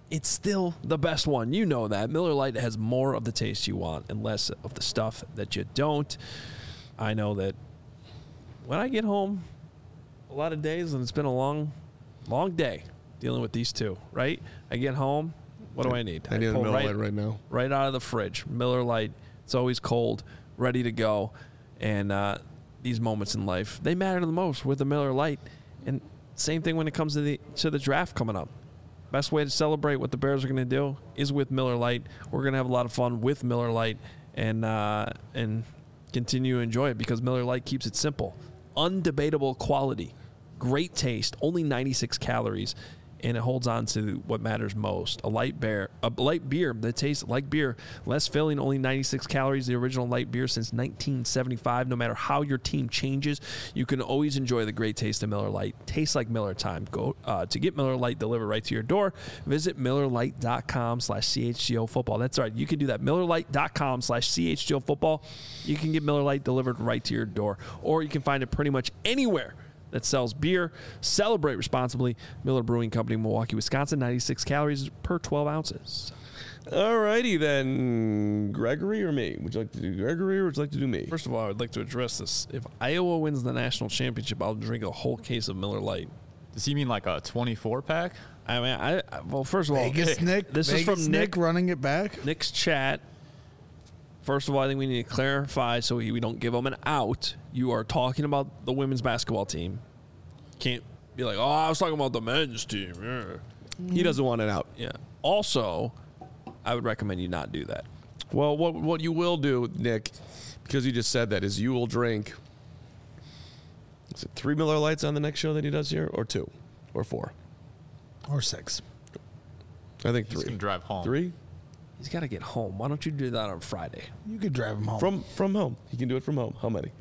it's still the best one. You know that. Miller Lite has more of the taste you want and less of the stuff that you don't. I know that when I get home, a lot of days, and it's been a long, long day dealing with these two, right? I get home, what do I need? I need a pull Miller right, Lite right now. Right out of the fridge. Miller Lite. It's always cold, ready to go. And uh, these moments in life, they matter the most with the Miller Lite. And same thing when it comes to the to the draft coming up. Best way to celebrate what the Bears are going to do is with Miller Lite. We're going to have a lot of fun with Miller Lite and uh, and continue to enjoy it because Miller Lite keeps it simple. Undebatable quality, great taste, only ninety-six calories, and it holds on to what matters most. A light beer, a light beer that tastes like beer, less filling, only ninety-six calories. The original light beer since nineteen seventy-five. No matter how your team changes, you can always enjoy the great taste of Miller Lite. Tastes like Miller time. Go uh, to get Miller Lite delivered right to your door. Visit Miller Lite dot com slash C H G O football. That's right. You can do that. Miller Lite dot com slash C H G O football. You can get Miller Lite delivered right to your door, or you can find it pretty much anywhere that sells beer. Celebrate responsibly. Miller Brewing Company, Milwaukee, Wisconsin. ninety-six calories per twelve ounces. All righty then. Gregory or me? Would you like to do Gregory or would you like to do me? First of all, I would like to address this. If Iowa wins the national championship, I'll drink a whole case of Miller Lite. Does he mean like a twenty-four pack? I mean, I, I well, first of all, Vegas Nick. this Vegas is from Nick Nick. running it back. Nick's chat. First of all, I think we need to clarify so we don't give them an out. You are talking about the women's basketball team. Can't be like, oh, I was talking about the men's team. Yeah. He doesn't want it out. Yeah. Also, I would recommend you not do that. Well, what what you will do, Nick, because you just said that, is you will drink, is it three Miller Lights on the next show that he does here, or two, or four? Or six. I think He's three. going to drive home. Three? He's got to get home. Why don't you do that on Friday? You could drive him home. From from home. He can do it from home. How many?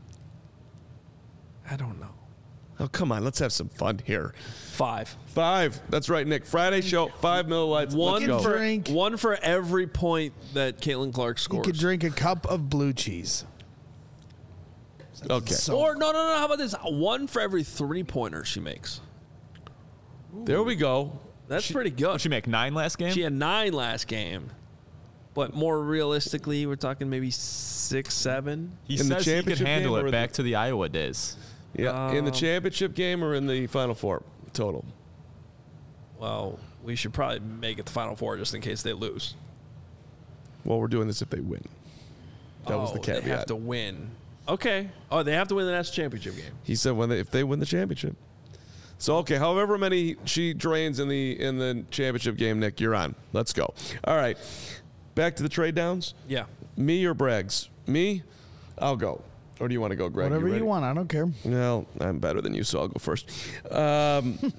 I don't know. Oh, come on. Let's have some fun here. Five. Five. That's right, Nick. Friday show, five Miller Lights. One Let's go. for Drink. one for every point that Caitlin Clark you scores. could drink a cup of blue cheese. Okay. So- Or no, no, no. How about this? One for every three pointer she makes. There we go. That's pretty good. Did she make nine last game? She had nine last game, but more realistically, we're talking maybe six, seven. he In the says he could championship handle game or it in back the- to the Iowa days. Yeah. in the championship game or in the Final Four total? Well, we should probably make it the Final Four just in case they lose. Well, we're doing this if they win. That was the Oh, caveat. They have to win. Okay. Oh, they have to win the national championship game. He said when they, if they win the championship. So okay, however many she drains in the in the championship game, Nick, you're on. Let's go. All right, back to the trade downs. Yeah. Me or Braggs? Me? I'll go. Or do you want to go, Greg? Whatever you, ready? want. I don't care. Well, I'm better than you, so I'll go first. Um,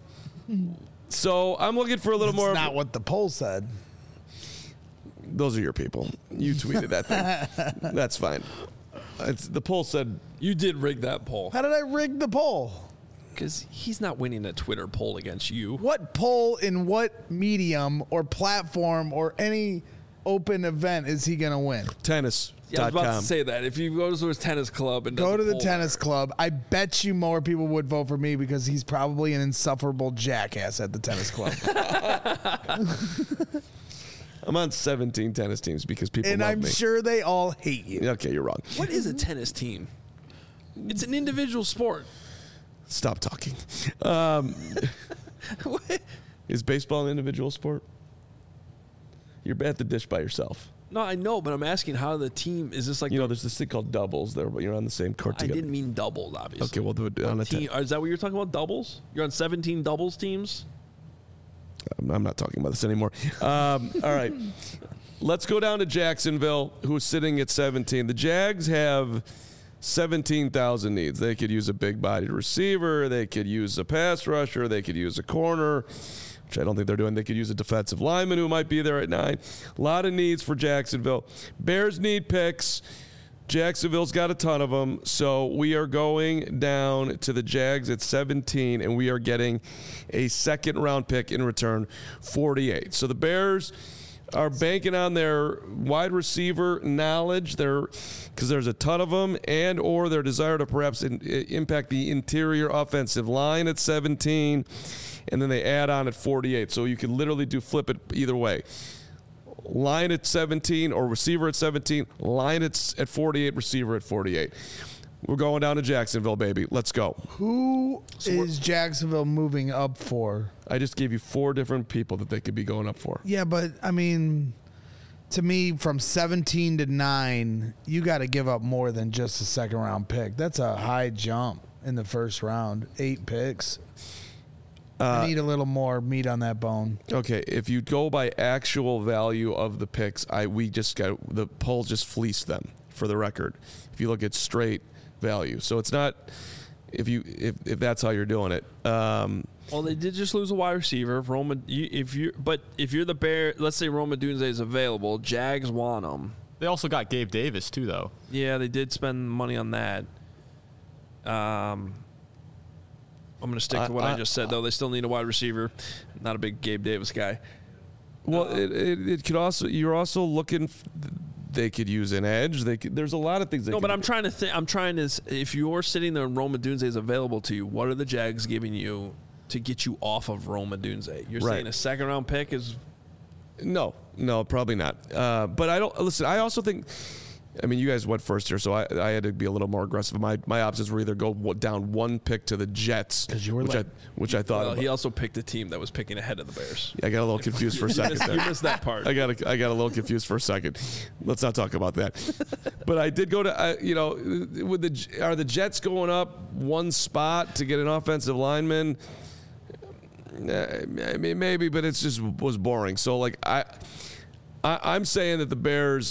so I'm looking for a little That's more. not what the poll said. Those are your people. You tweeted that thing. That's fine. It's, the poll said You did rig that poll How did I rig the poll? because he's not winning a Twitter poll against you. What poll in what medium or platform or any open event is he going to win? tennis. Yeah, I was about com. to say that. If he goes to his tennis club and does Go a to the poll tennis there. club. I bet you more people would vote for me because he's probably an insufferable jackass at the tennis club. I'm on seventeen tennis teams because people and love I'm me. sure they all hate you. Okay, you're wrong. What is a tennis team? It's an individual sport. Stop talking. Um, What? is baseball an individual sport? You're at the dish by yourself. No, I know, but I'm asking how the team is this like? You know, the- there's this thing called doubles there, but you're on the same court I together. didn't mean doubles, obviously. Okay, we'll do it on a Team, ten. is that what you're talking about? Doubles? You're on seventeen doubles teams. I'm I'm not talking about this anymore. Um, all right. Let's go down to Jacksonville, who's sitting at seventeen. The Jags have seventeen thousand needs. They could use a big-bodied receiver. They could use a pass rusher. They could use a corner, which I don't think they're doing. They could use a defensive lineman who might be there at nine. A lot of needs for Jacksonville. Bears need picks. Jacksonville's got a ton of them. So we are going down to the Jags at seventeen, and we are getting a second-round pick in return, forty-eight. So the Bears are banking on their wide receiver knowledge, their because there's a ton of them, and or their desire to perhaps in, impact the interior offensive line at seventeen, and then they add on at forty-eight. So you can literally do flip it either way. Line at seventeen or receiver at seventeen, line at, at forty-eight, receiver at forty-eight. We're going down to Jacksonville, baby. Let's go. Who so is Jacksonville moving up for? I just gave you four different people that they could be going up for. Yeah, but, I mean, to me, from seventeen to nine, you got to give up more than just a second-round pick. That's a high jump in the first round. Eight picks. Uh, I need a little more meat on that bone. Okay, if you go by actual value of the picks, I we just got the poll just fleeced them, for the record. If you look at straight value, so it's not if you if, if that's how you're doing it. Um, well, they did just lose a wide receiver. If Roma, you, if you but if you're the Bear, let's say Roma Dunze is available, Jags want him. They also got Gabe Davis too, though. Yeah, they did spend money on that. Um, I'm going to stick to what I, I just said, though. They still need a wide receiver. Not a big Gabe Davis guy. Well, uh, it, it it could also you're also looking. They could use an edge. They could, there's a lot of things. They no, could but I'm do. trying to think. I'm trying to. If you're sitting there and Roma Dunze is available to you, what are the Jags giving you to get you off of Roma Dunze? You're right. saying a second round pick is. No, no, probably not. Uh, but I don't listen. I also think. I mean, you guys went first here, so I, I had to be a little more aggressive. My my options were either go down one pick to the Jets, because you were which like, I which I thought. Well, about. he also picked a team that was picking ahead of the Bears. Yeah, I got a little confused for a second. you, missed, there. you missed that part. I got a, I got a little confused for a second. Let's not talk about that. But I did go to uh, you know, with the are the Jets going up one spot to get an offensive lineman? I mean, maybe, but it's just was boring. So like I, I I'm saying that the Bears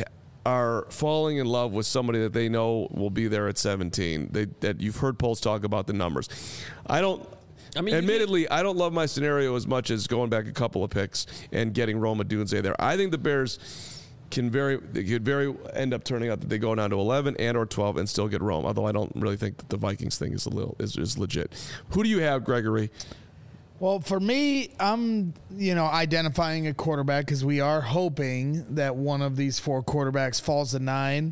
are falling in love with somebody that they know will be there at seventeen. They that you've heard polls talk about the numbers. I don't. I mean, admittedly, I don't love my scenario as much as going back a couple of picks and getting Roma Dunze there. I think the Bears can very they could very end up turning out that they go down to eleven and or twelve and still get Rome. Although I don't really think that the Vikings thing is a little is, is legit. Who do you have, Gregory? Well, for me, I'm, you know, identifying a quarterback because we are hoping that one of these four quarterbacks falls to nine.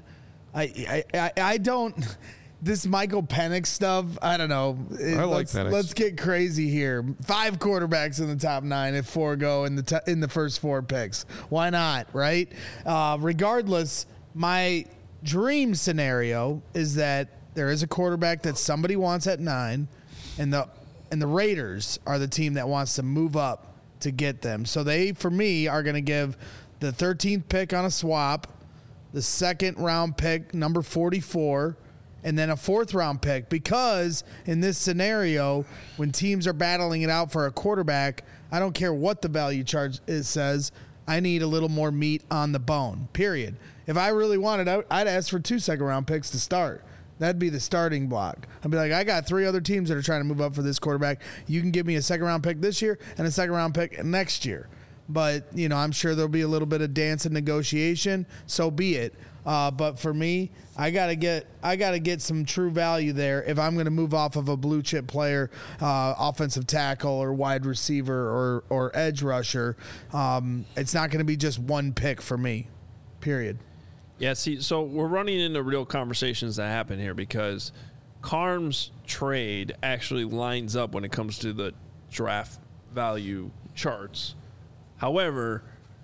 I, I, I, I don't. This Michael Penix stuff, I don't know. It, I like let's, Penix. Let's get crazy here. Five quarterbacks in the top nine if four go in the t- in the first four picks. Why not, right? Uh, regardless, my dream scenario is that there is a quarterback that somebody wants at nine, and the and the Raiders are the team that wants to move up to get them. So they, for me, are going to give the thirteenth pick on a swap, the second round pick, number forty-four, and then a fourth round pick, because in this scenario, when teams are battling it out for a quarterback, I don't care what the value chart it says, I need a little more meat on the bone, period. If I really wanted, I'd ask for two second round picks to start. That'd be the starting block. I'd be like, I got three other teams that are trying to move up for this quarterback. You can give me a second round pick this year and a second round pick next year. But, you know, I'm sure there'll be a little bit of dance and negotiation. So be it. Uh, but for me, I gotta get I gotta get some true value there if I'm gonna move off of a blue chip player, uh, offensive tackle or wide receiver or or edge rusher. Um, it's not gonna be just one pick for me. Period. Yeah, see, so we're running into real conversations that happen here because Carm's trade actually lines up when it comes to the draft value charts. However,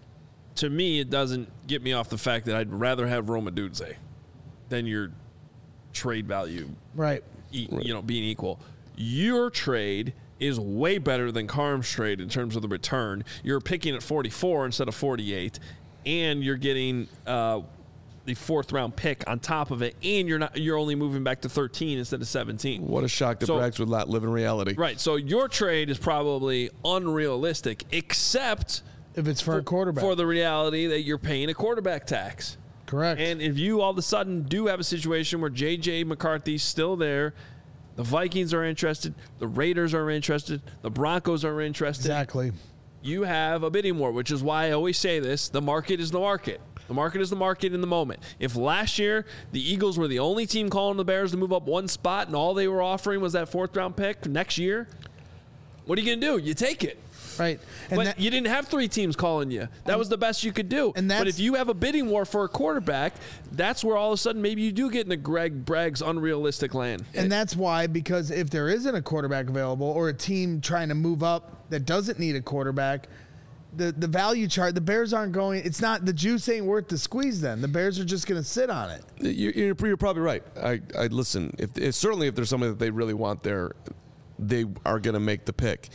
to me, it doesn't get me off the fact that I'd rather have Roma Dunze than your trade value, right? E- you know, being equal. Your trade is way better than Carm's trade in terms of the return. You're picking at forty-four instead of forty-eight, and you're getting uh, the fourth round pick on top of it, and you're not you're only moving back to thirteen instead of seventeen. What a shock that so, Braggs would not live in reality. Right. So your trade is probably unrealistic, except if it's for, for a quarterback. For the reality that you're paying a quarterback tax. Correct. And if you all of a sudden do have a situation where J J McCarthy's still there, the Vikings are interested, the Raiders are interested, the Broncos are interested. Exactly. You have a bidding war, which is why I always say this, the market is the market. The market is the market in the moment. If last year the Eagles were the only team calling the Bears to move up one spot and all they were offering was that fourth round pick next year, what are you going to do? You take it. Right. And but that, you didn't have three teams calling you. That was the best you could do. And but that's- if you have a bidding war for a quarterback, that's where all of a sudden maybe you do get into Greg Bragg's unrealistic land. and that's why, because if there isn't a quarterback available or a team trying to move up that doesn't need a quarterback, the, the value chart, the Bears aren't going, it's not, the juice ain't worth the squeeze then. The Bears are just going to sit on it. You're, you're, you're probably right. I, I listen. If, if certainly if there's somebody that they really want there, they are going to make the pick.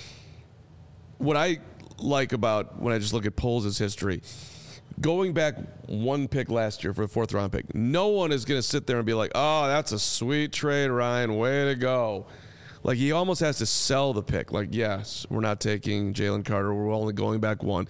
What I like about when I just look at Poles' history, going back one pick last year for a fourth round pick, no one is going to sit there and be like, "Oh, that's a sweet trade, Ryan. Way to go." Like, he almost has to sell the pick. Like, yes, we're not taking Jalen Carter. We're only going back one.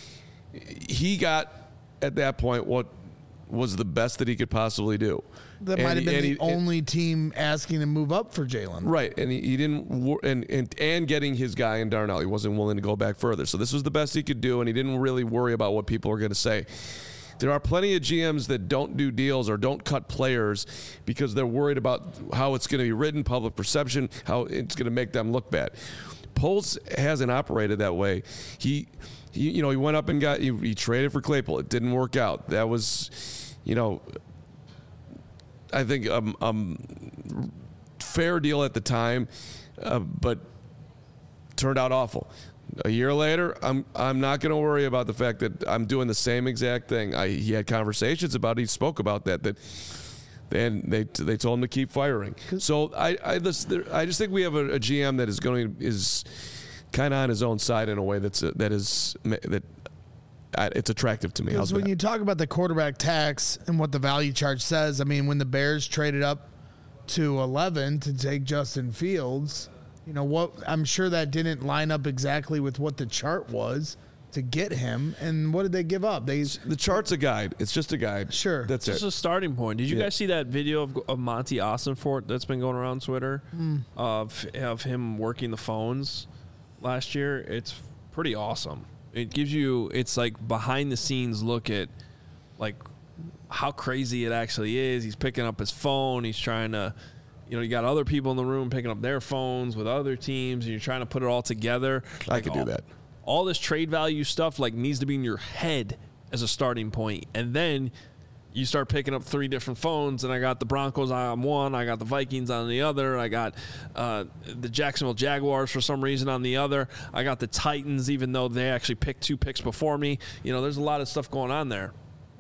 He got, at that point, what was the best that he could possibly do. That And might have he- been and the he- and- only team asking to move up for Jalen. Right, and he, he didn't, wor- and, and and getting his guy in Darnell, he wasn't willing to go back further. So this was the best he could do, and he didn't really worry about what people are going to say. There are plenty of G Ms that don't do deals or don't cut players because they're worried about how it's going to be written, public perception, how it's going to make them look bad. Poles hasn't operated that way. He, he you know, he went up and got, he, he traded for Claypool. It didn't work out. That was, you know, I think um, um fair deal at the time, uh, but turned out awful. A year later, I'm I'm not going to worry about the fact that I'm doing the same exact thing. I, he had conversations about it. He spoke about that. That and they they told him to keep firing. So I I just, I just think we have a, a G M that is going to is kind of on his own side in a way that's that is that uh, it's attractive to me. Because How's when that? you talk about the quarterback tax and what the value chart says, I mean, when the Bears traded up to eleven to take Justin Fields, you know what? I'm sure that didn't line up exactly with what the chart was to get him. And what did they give up? They The chart's a guide. It's just a guide. Sure. That's It's it. just a starting point. Did you Yeah. guys see that video of, of Monty Ossenfort that's been going around Twitter Hmm. of of him working the phones last year? It's pretty awesome. It gives you, it's like behind the scenes look at like how crazy it actually is. He's picking up his phone. He's trying to, you know, you got other people in the room picking up their phones with other teams, and you're trying to put it all together. I Like could do all- that. All this trade value stuff like needs to be in your head as a starting point, and then you start picking up three different phones. And I got the Broncos on one, I got the Vikings on the other, I got uh, the Jacksonville Jaguars for some reason on the other, I got the Titans, even though they actually picked two picks before me. You know, there's a lot of stuff going on there.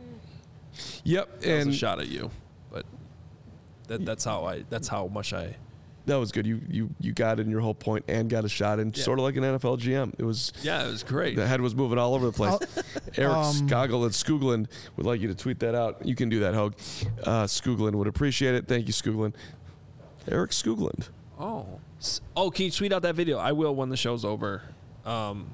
Yep, That was and a shot at you, but that, that's how I. That's how much I. that was good. You you you got in your whole point and got a shot in, Yeah. sort of like an N F L G M. It was Yeah, it was great. the head was moving all over the place. Eric um, Skogel and Skoogland would like you to tweet that out. You can do that, Hogue. Uh, Skoogland would appreciate it. Thank you, Skoogland. Eric Skoogland. Oh. Oh, can you tweet out that video? I will when the show's over. Um,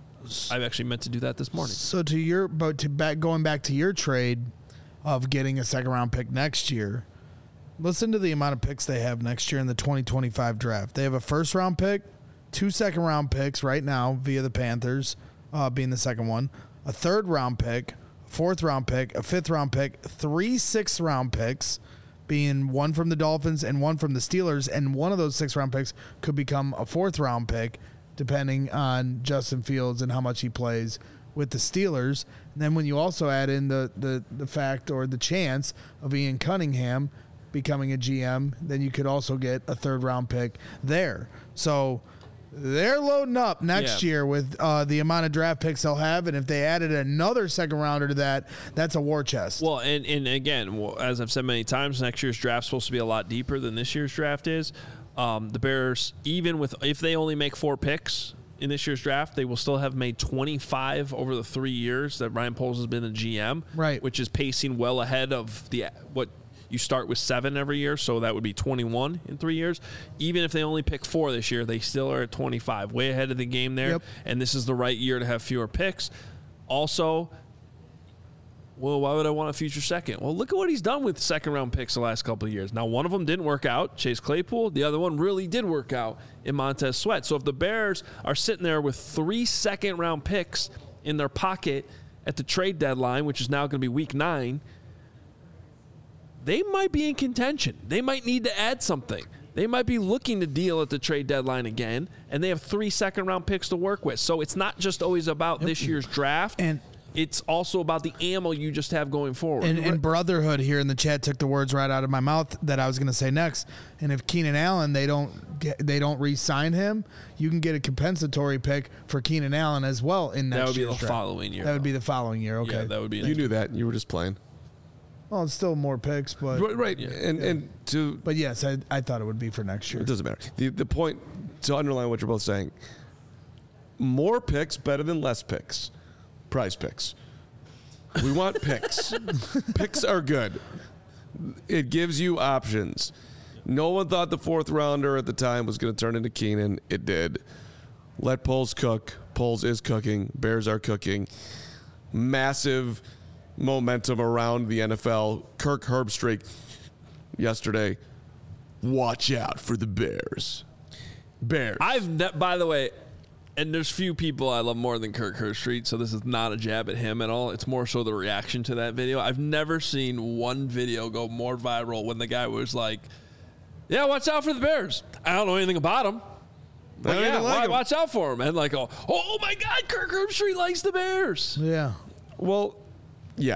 I actually meant to do that this morning. So to your, but to back going back to your trade of getting a second round pick next year, listen to the amount of picks they have next year in the twenty twenty-five draft. They have a first round pick, two second round picks right now via the Panthers, uh, being the second one, a third round pick, fourth round pick, a fifth round pick, three sixth round picks, being one from the Dolphins and one from the Steelers, and one of those six round picks could become a fourth round pick depending on Justin Fields and how much he plays with the Steelers. And then when you also add in the the the fact or the chance of Ian Cunningham becoming a G M, then you could also get a third round pick there. So they're loading up next Yeah. year with uh, the amount of draft picks they'll have, and if they added another second rounder to that, that's a war chest. Well, and, and again, well, as I've said many times, next year's draft's supposed to be a lot deeper than this year's draft is. Um, the Bears, even with if they only make four picks in this year's draft, they will still have made twenty-five over the three years that Ryan Poles has been the G M, Right. Which is pacing well ahead of the what you start with seven every year, so that would be twenty-one in three years. Even if they only pick four this year, they still are at twenty-five, way ahead of the game there. Yep. And this is the right year to have fewer picks. Also, well, why would I want a future second? Well, look at what he's done with second round picks the last couple of years. Now, one of them didn't work out, Chase Claypool. The other one really did work out in Montez Sweat. So if the Bears are sitting there with three second round picks in their pocket at the trade deadline, which is now going to be week nine, they might be in contention. They might need to add something. they might be looking to deal at the trade deadline again, and they have three second-round picks to work with. So it's not just always about this year's draft. And it's also about the ammo you just have going forward. And, and Brotherhood here in the chat took the words right out of my mouth that I was going to say next. And if Keenan Allen, they don't get, they don't re-sign him, you can get a compensatory pick for Keenan Allen as well in next that would be year's the draft. following year. That would be the following year. Okay, Yeah, that would be. You knew that. You were just playing. well, it's still more picks, but Right, right. and and to but yes, I, I thought it would be for next year. it doesn't matter. The the point to underline what you're both saying: more picks better than less picks. Prize picks. We want picks. Picks are good. It gives you options. No one thought the fourth rounder at the time was going to turn into Keenan. It did. Let Poles cook. Poles is cooking. Bears are cooking. Massive momentum around the N F L. Kirk Herbstreit yesterday. Watch out for the Bears. Bears. I've, ne- by the way, and there's few people I love more than Kirk Herbstreit, so this is not a jab at him at all. It's more so the reaction to that video. I've never seen one video go more viral when the guy was like, yeah, watch out for the Bears. I don't know anything about them. But don't yeah, even like why- 'em. watch out for him. And like, oh, oh my God, Kirk Herbstreit likes the Bears. Yeah. Well, yeah.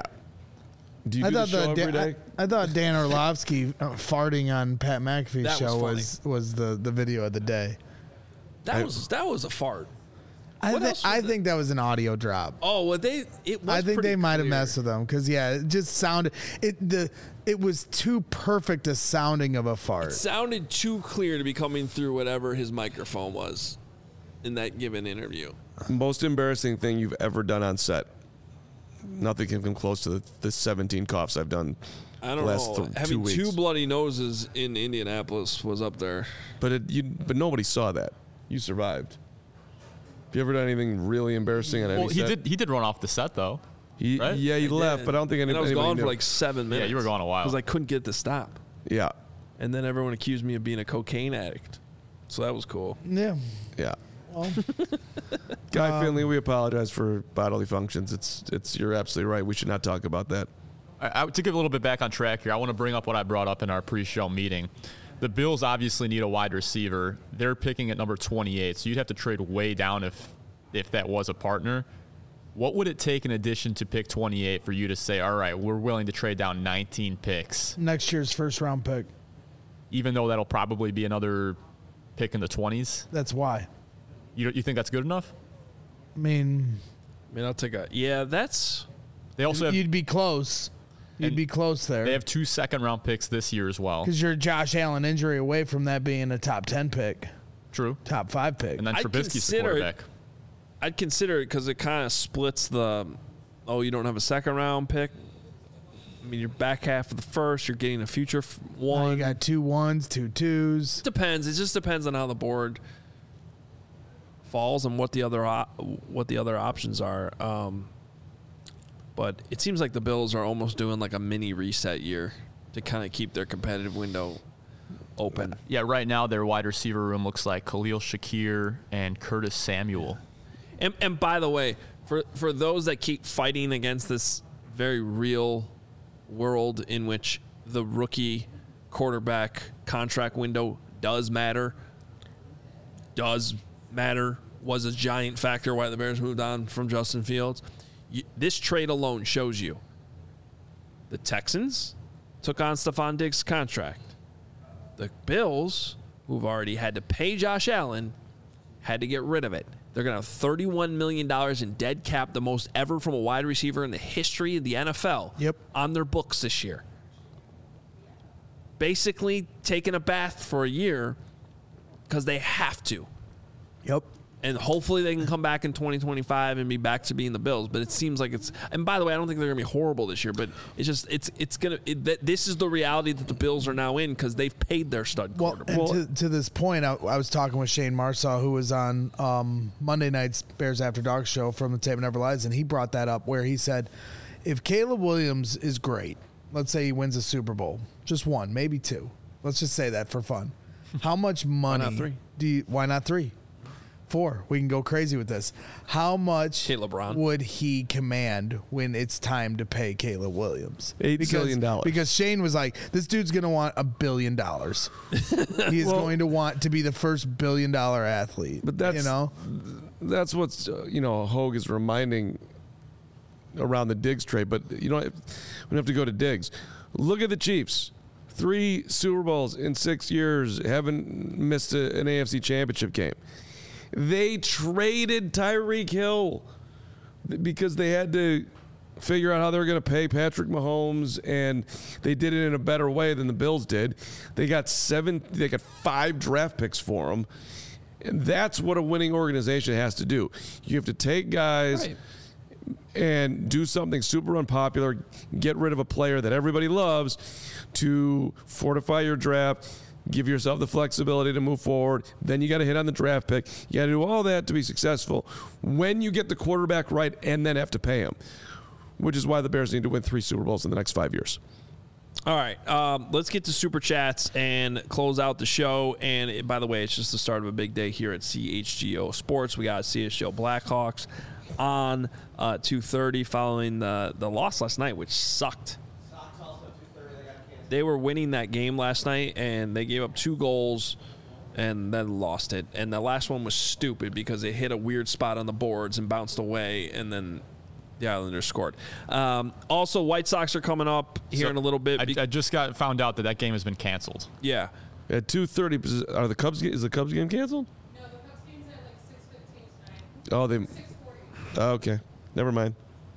Do you I do the thought show the, every Dan, day? I, I thought Dan Orlovsky uh, farting on Pat McAfee's That was show funny. was was the, the video of the day. That I- was that was a fart. I, What thi- else was I it? think that was an audio drop. Oh, well, they it was I think pretty they might have clear. messed with them because yeah, it just sounded it the it was too perfect a sounding of a fart. Sounded too clear to be coming through whatever his microphone was in that given interview. Most embarrassing thing you've ever done on set. Nothing can come close to the, the seventeen coughs I've done I the don't last know. th- two Having weeks. two bloody noses in Indianapolis was up there. But it, you, but nobody saw that. You survived. Have you ever done anything really embarrassing on any Well, he set? did. He did run off the set though. He, right? Yeah, he I left, did. but I don't think any, and I was anybody gone knew. for like seven minutes. Yeah, you were gone a while. Because I couldn't get to stop. Yeah, And then everyone accused me of being a cocaine addict. So that was cool. Yeah. yeah. Well, Guy Um, Finley, we apologize for bodily functions. It's it's you're absolutely right. We should not talk about that. I, I, to give a little bit back on track here, I want to bring up what I brought up in our pre-show meeting. The Bills obviously need a wide receiver. They're picking at number twenty-eight, so you'd have to trade way down if if that was a partner. What would it take in addition to pick twenty-eight for you to say, all right, we're willing to trade down nineteen picks, next year's first round pick. even though that'll probably be another pick in the twenties? That's why. You, you think that's good enough? I mean, I mean, I'll take a. Yeah, that's. They also have, you'd be close. You'd And be close there. they have two second-round picks this year as well. Because you're Josh Allen injury away from that being a top ten pick, True. top five pick. And then I'd Trubisky's the consider it- quarterback. I'd consider it because it kind of splits the. Oh, you don't have a second round pick. I mean, you're back half of the first. You're getting a future f- Now one. you got two ones, two twos. Depends. It just depends on how the board falls and what the other op- what the other options are. Um, but it seems like the Bills are almost doing like a mini reset year to kind of keep their competitive window open. Yeah, right now their wide receiver room looks like Khalil Shakir and Curtis Samuel. And, and by the way, for for those that keep fighting against this very real world in which the rookie quarterback contract window does matter, does matter, was a giant factor why the Bears moved on from Justin Fields. You, this trade alone shows you the Texans took on Stephon Diggs' contract. The Bills, who've already had to pay Josh Allen, had to get rid of it. They're going to have thirty-one million dollars in dead cap, the most ever from a wide receiver in the history of the N F L, Yep. on their books this year. Basically taking a bath for a year because they have to. Yep. And hopefully they can come back in twenty twenty-five and be back to being the Bills. But it seems like it's. And by the way, I don't think they're going to be horrible this year. But it's just it's it's going to. It, this is the reality that the Bills are now in because they've paid their stud Well, quarterback. and to, to this point, I, I was talking with Shane Marsaw, who was on um, Monday night's Bears After Dark show from the Tape Never Lies, and he brought that up where he said, if Caleb Williams is great, let's say he wins a Super Bowl, just one, maybe two. Let's just say that for fun. How much money three? do you? Why not three? four. We can go crazy with this. How much Caleb Brown. would he command when it's time to pay Caleb Williams? Eight because, billion dollars. Because Shane was like, this dude's going to want a billion dollars. He is going to want to be the first billion dollar athlete. But that's you know, that's what's uh, you know Hogue is reminding around the Diggs trade. But you know, we don't have to go to Diggs. Look at the Chiefs. Three Super Bowls in six years, haven't missed a, an A F C Championship game. They traded Tyreek Hill because they had to figure out how they were going to pay Patrick Mahomes, and they did it in a better way than the Bills did. They got seven, they got five draft picks for him, and that's what a winning organization has to do. You have to take guys. Right. And do something super unpopular, get rid of a player that everybody loves to fortify your draft, give yourself the flexibility to move forward. Then you got to hit on the draft pick. You got to do all that to be successful when you get the quarterback right and then have to pay him, which is why the Bears need to win three Super Bowls in the next five years. All right, um, let's get to Super Chats and close out the show. And it, by the way, it's just the start of a big day here at C H G O Sports. We got C H G O Blackhawks on uh, two thirty following the, the loss last night, which sucked. They were winning that game last night, and they gave up two goals and then lost it. And the last one was stupid because they hit a weird spot on the boards and bounced away, and then the Islanders scored. Um, also, White Sox are coming up here So in a little bit. I, I just got found out that that game has been canceled. Yeah. At two thirty, are the Cubs? Is the Cubs game canceled? No, the Cubs game's at like six fifteen tonight. Oh, they. six forty. Oh, okay, never mind.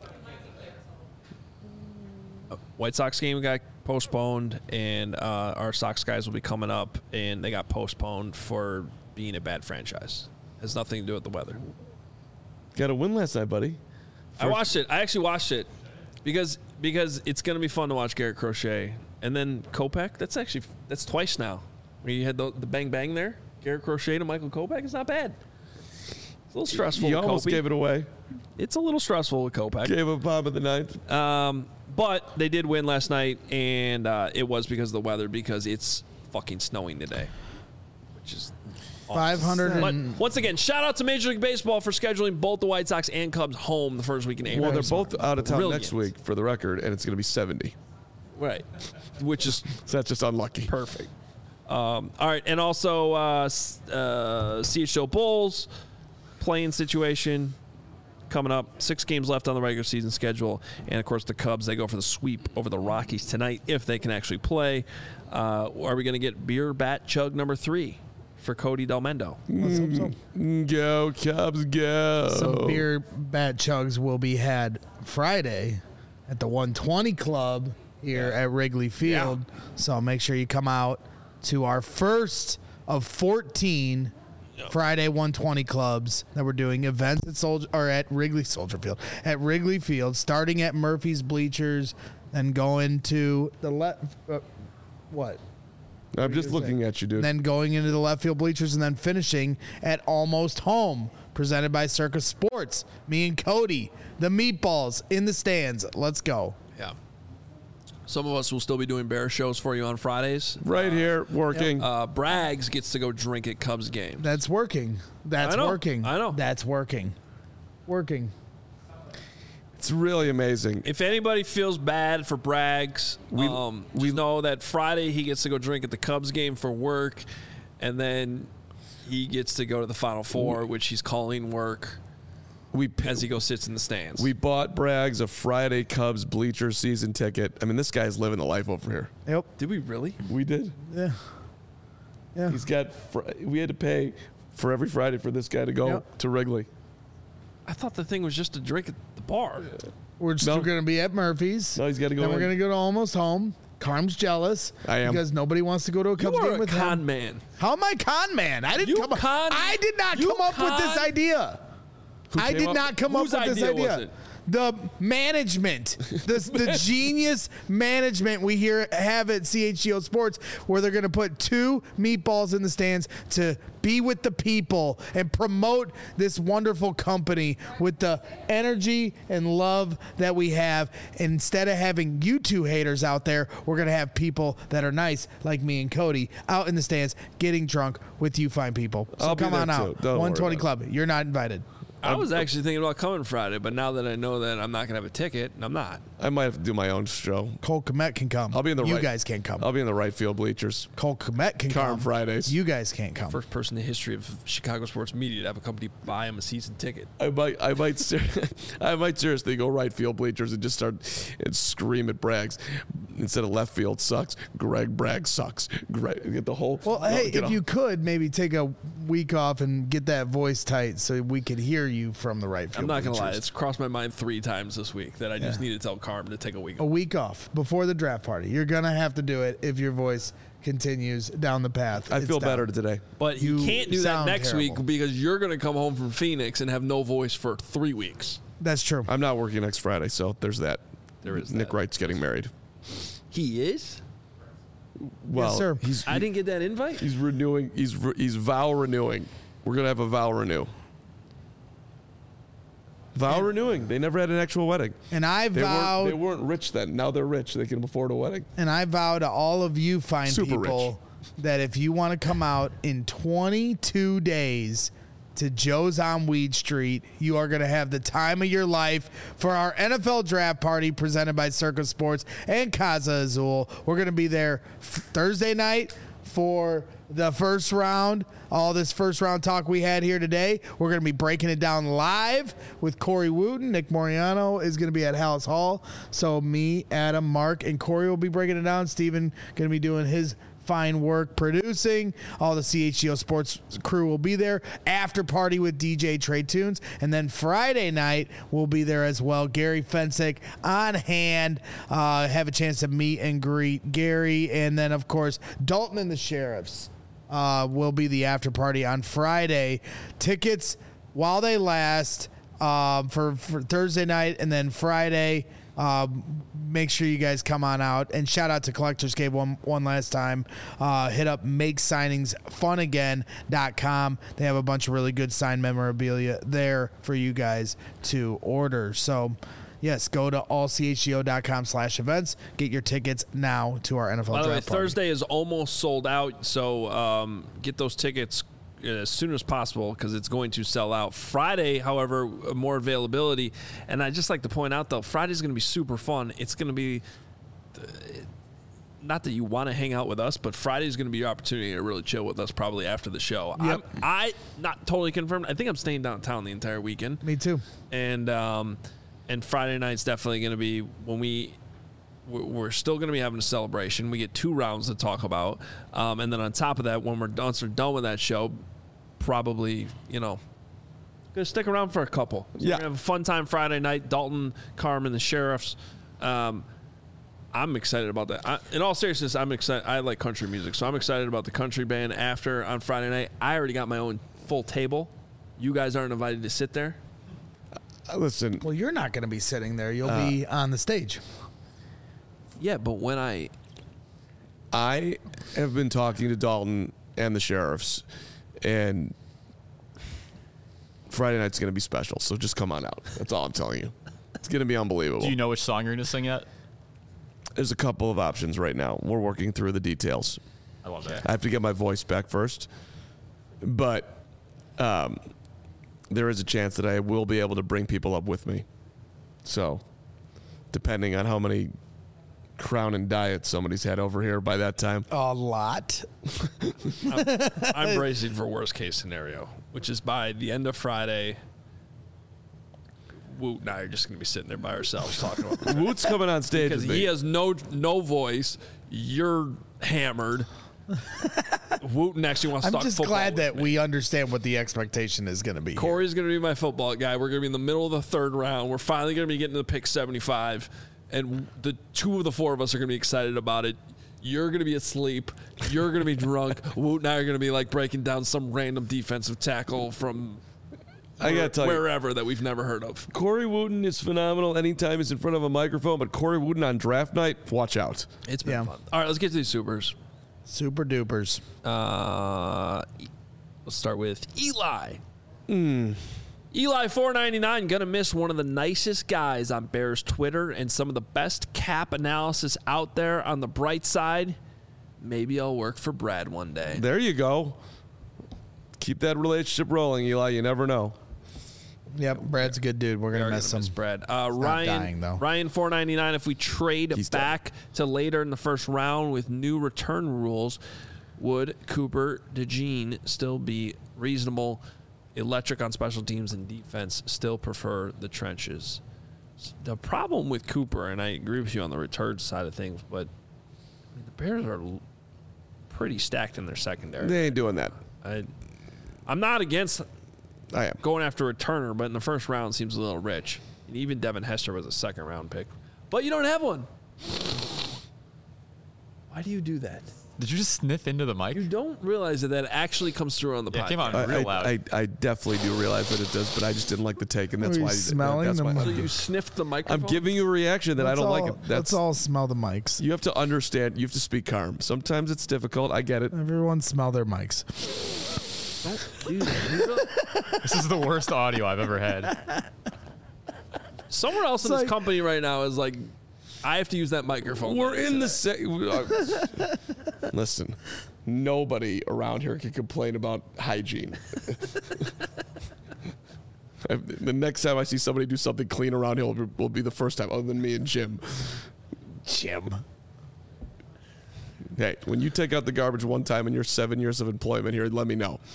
White Sox game got postponed, and uh, our Sox guys will be coming up, and they got postponed for being a bad franchise. Has nothing to do with the weather. Got a win last night, buddy. I watched it. I actually watched it because because it's going to be fun to watch Garrett Crochet. And then Kopech, that's actually that's twice now. Where you had the, the bang bang there. Garrett Crochet to Michael Kopech is not bad. It's a little stressful. You with almost Kopech. gave it away. It's a little stressful with Kopech. Gave a bomb in the ninth. Um, but they did win last night, and uh, it was because of the weather, because it's fucking snowing today, which is five hundred. But once again, shout out to Major League Baseball for scheduling both the White Sox and Cubs home the first week in April. Well, they're both out of town Brilliant. next week, for the record, and it's going to be seventy. Right, which is So that's just unlucky. perfect. Um, all right, and also uh, s- uh, C H O Bulls playing situation coming up. Six games left on the regular season schedule, and of course the Cubs, they go for the sweep over the Rockies tonight if they can actually play. Uh, are we going to get beer bat chug number three for Cody Delmendo? Let's hope so. Go Cubs, go! Some beer bat chugs will be had Friday at the one twenty Club here at Wrigley Field. So make sure you come out to our first of fourteen Friday one twenty clubs that we're doing events at Soldier or at Wrigley Soldier Field at Wrigley Field, starting at Murphy's Bleachers, then going to the left. Uh, what? I'm just looking at you, dude. Then going into the left field bleachers, and then finishing at Almost Home, presented by Circus Sports. Me and Cody, the meatballs in the stands. Let's go. Yeah. Some of us will still be doing bear shows for you on Fridays. right here, working. Uh, Braggs gets to go drink at Cubs games. That's working. That's I know. working. I know. That's working. Working. It's really amazing. If anybody feels bad for Braggs, We- um, we- we know that Friday he gets to go drink at the Cubs game for work, and then he gets to go to the Final Four, which he's calling work, We as he goes sits in the stands. we bought Braggs a Friday Cubs bleacher season ticket. I mean, this guy's living the life over here. Yep. Did we really? We did. Yeah. Yeah. He's got. Fr- we had to pay for every Friday for this guy to go Yep. to Wrigley. I thought the thing was just to drink at the bar. We're still No. going to be at Murphy's. No, he's got to go. Then we're in. going to go to Almost Home. Carm's jealous. I am. Because nobody wants to go to a You Cubs are game a with con him. man. How am I con man? I didn't You come con- up. I did not you come up with this con- idea. Who I came did up- not come Whose up with this idea idea. was it? the management, the, the genius management we here have at C H G O Sports, where they're going to put two meatballs in the stands to be with the people and promote this wonderful company with the energy and love that we have. And instead of having you two haters out there, we're going to have people that are nice, like me and Cody, out in the stands getting drunk with you fine people. So I'll be come there on too. out. Don't one worry twenty about Club. You're not invited. I was actually thinking about coming Friday, but now that I know that I'm not going to have a ticket, I'm not. I might have to do my own show. Cole Kmet can come. I'll be in the You right, guys can't come. I'll be in the right field bleachers. Cole Kmet can Car come. on Fridays. You guys can't come. First person in the history of Chicago sports media to have a company buy him a season ticket. I might, I might, ser- I might seriously go right field bleachers and just start and scream at Braggs instead of left field sucks. Greg Bragg sucks. Greg, get the whole. Well, no, hey, get if off. you could maybe take a week off and get that voice tight so we could hear you from the right field. I'm not going to lie. bleachers. It's crossed my mind three times this week that I just Yeah. need to tell Carm to take a week A week off before the draft party. You're gonna have to do it if your voice continues down the path. I It's feel down. better today. But you, You can't do that sound next terrible. week because you're going to come home from Phoenix and have no voice for three weeks. That's true. I'm not working next Friday, so there's that. There is Nick that. Wright's getting married. He is? Well, sir. he's I didn't get that invite. he's renewing. He's re- he's vow renewing. We're gonna have a vow renew. Vow renewing. They never had an actual wedding. And I They vow weren't, they weren't rich then. Now they're rich. They can afford a wedding. and I vow to all of you fine Super people that if you want to come out in twenty-two days to Joe's on Weed Street, you are going to have the time of your life for our N F L draft party presented by Circus Sports and Casa Azul. We're going to be there f- Thursday night for the first round. All this first round talk we had here today, we're going to be breaking it down live with Corey Wooten. Nick Moriano is going to be at Hallis Hall. So me, Adam, Mark, and Corey will be breaking it down. Steven going to be doing his fine work producing. All the C H G O Sports crew will be there. After party with D J Trey Tunes. And then Friday night, we'll be there as well. Gary Fensick on hand. Uh, have a chance to meet and greet Gary. And then, of course, Dalton and the Sheriffs uh, will be the after party on Friday. Tickets while they last um, for, for Thursday night and then Friday. Um, make sure you guys come on out, and shout out to Collectors Cave one one last time. Uh, hit up make signings fun again dot com. They have a bunch of really good signed memorabilia there for you guys to order. So yes, go to all c h g o dot com slash events. Get your tickets now to our N F L By the way, draft party. Thursday is almost sold out, so um, get those tickets as soon as possible because it's going to sell out. Friday, however, more availability. And I just like to point out, though, Friday's going to be super fun. It's going to be not that you want to hang out with us, but Friday's going to be your opportunity to really chill with us probably after the show. Yep. I'm, I not totally confirmed. I think I'm staying downtown the entire weekend. Me too. And um, and Friday night's definitely going to be when we we're we're still going to be having a celebration. We get two rounds to talk about, um, and then on top of that, when we're done, we're done with that show, probably you know, gonna stick around for a couple. So Yeah. we're gonna have a fun time Friday night. Dalton, Carmen, the Sheriffs. Um, I'm excited about that. I, in all seriousness, I'm excited. I like country music, so I'm excited about the country band after on Friday night. I already got my own full table. You guys aren't invited to sit there. Uh, listen, Well, you're not going to be sitting there. You'll be on the stage. Yeah, but when I I have been talking to Dalton and the Sheriffs, and Friday night's going to be special. So just come on out. That's all I'm telling you. It's going to be unbelievable. Do you know which song you're going to sing yet? There's a couple of options right now. We're working through the details. I love that. I have to get my voice back first, but um, there is a chance that I will be able to bring people up with me. So, depending on how many Crown and Diets somebody's had over here by that time. A lot. I'm bracing for worst case scenario, which is by the end of Friday, Woot and I are just going to be sitting there by ourselves talking about Woot's coming on stage because with me. he has no no voice. You're hammered. Wooten actually wants to I'm talk just football glad with that me. we understand what the expectation is going to be. here. Corey's going to be my football guy. We're going to be in the middle of the third round. We're finally going to be getting to the pick seventy-five, and the two of the four of us are going to be excited about it. You're going to be asleep. You're going to be drunk. Woot and I are going to be like breaking down some random defensive tackle from I got to tell you. wherever that we've never heard of. Corey Wooten is phenomenal anytime he's in front of a microphone, but Corey Wooten on draft night, watch out. It's been Yeah. fun. All right, let's get to these supers. Super dupers. Uh, let's start with Eli. Eli four ninety-nine gonna miss one of the nicest guys on Bears Twitter and some of the best cap analysis out there. On the bright side, maybe I'll work for Brad one day. There you go. Keep that relationship rolling, Eli. You never know. Yep, Brad's a good dude. We're We gonna are miss gonna him. miss Brad. Uh, not Ryan dying, though. Ryan four ninety-nine. If we trade He's back to later in the first round with new return rules, would Cooper DeJean still be reasonable? Electric on special teams and defense, still prefer the trenches. The problem with Cooper, and I agree with you on the return side of things, but I mean, the Bears are l- pretty stacked in their secondary. They ain't doing that. I, I'm not against I am. going after a returner, but in the first round seems a little rich. And even Devin Hester was a second round pick. But you don't have one. Why do you do that? Did you just sniff into the mic? You don't realize that that actually comes through on the Yeah, podcast. it came out I, real I, loud. I, I definitely do realize that it does, but I just didn't like the take, and that's Are you why. smelling that's the why mic? So I'm, you sniffed the microphone? I'm giving you a reaction that I Let's don't all, like. It. That's let's all smell the mics. you have to understand. You have to speak calm. Sometimes it's difficult. I get it. Everyone smell their mics. Don't do that. You don't- This is the worst audio I've ever had. Somewhere else in It's this like- company right now is like, I have to use that microphone. We're in the se- uh, Listen, nobody around here can complain about hygiene. The next time I see somebody do something clean around here will be, will be the first time, other than me and Jim. Jim. Hey, when you take out the garbage one time in your seven years of employment here, let me know.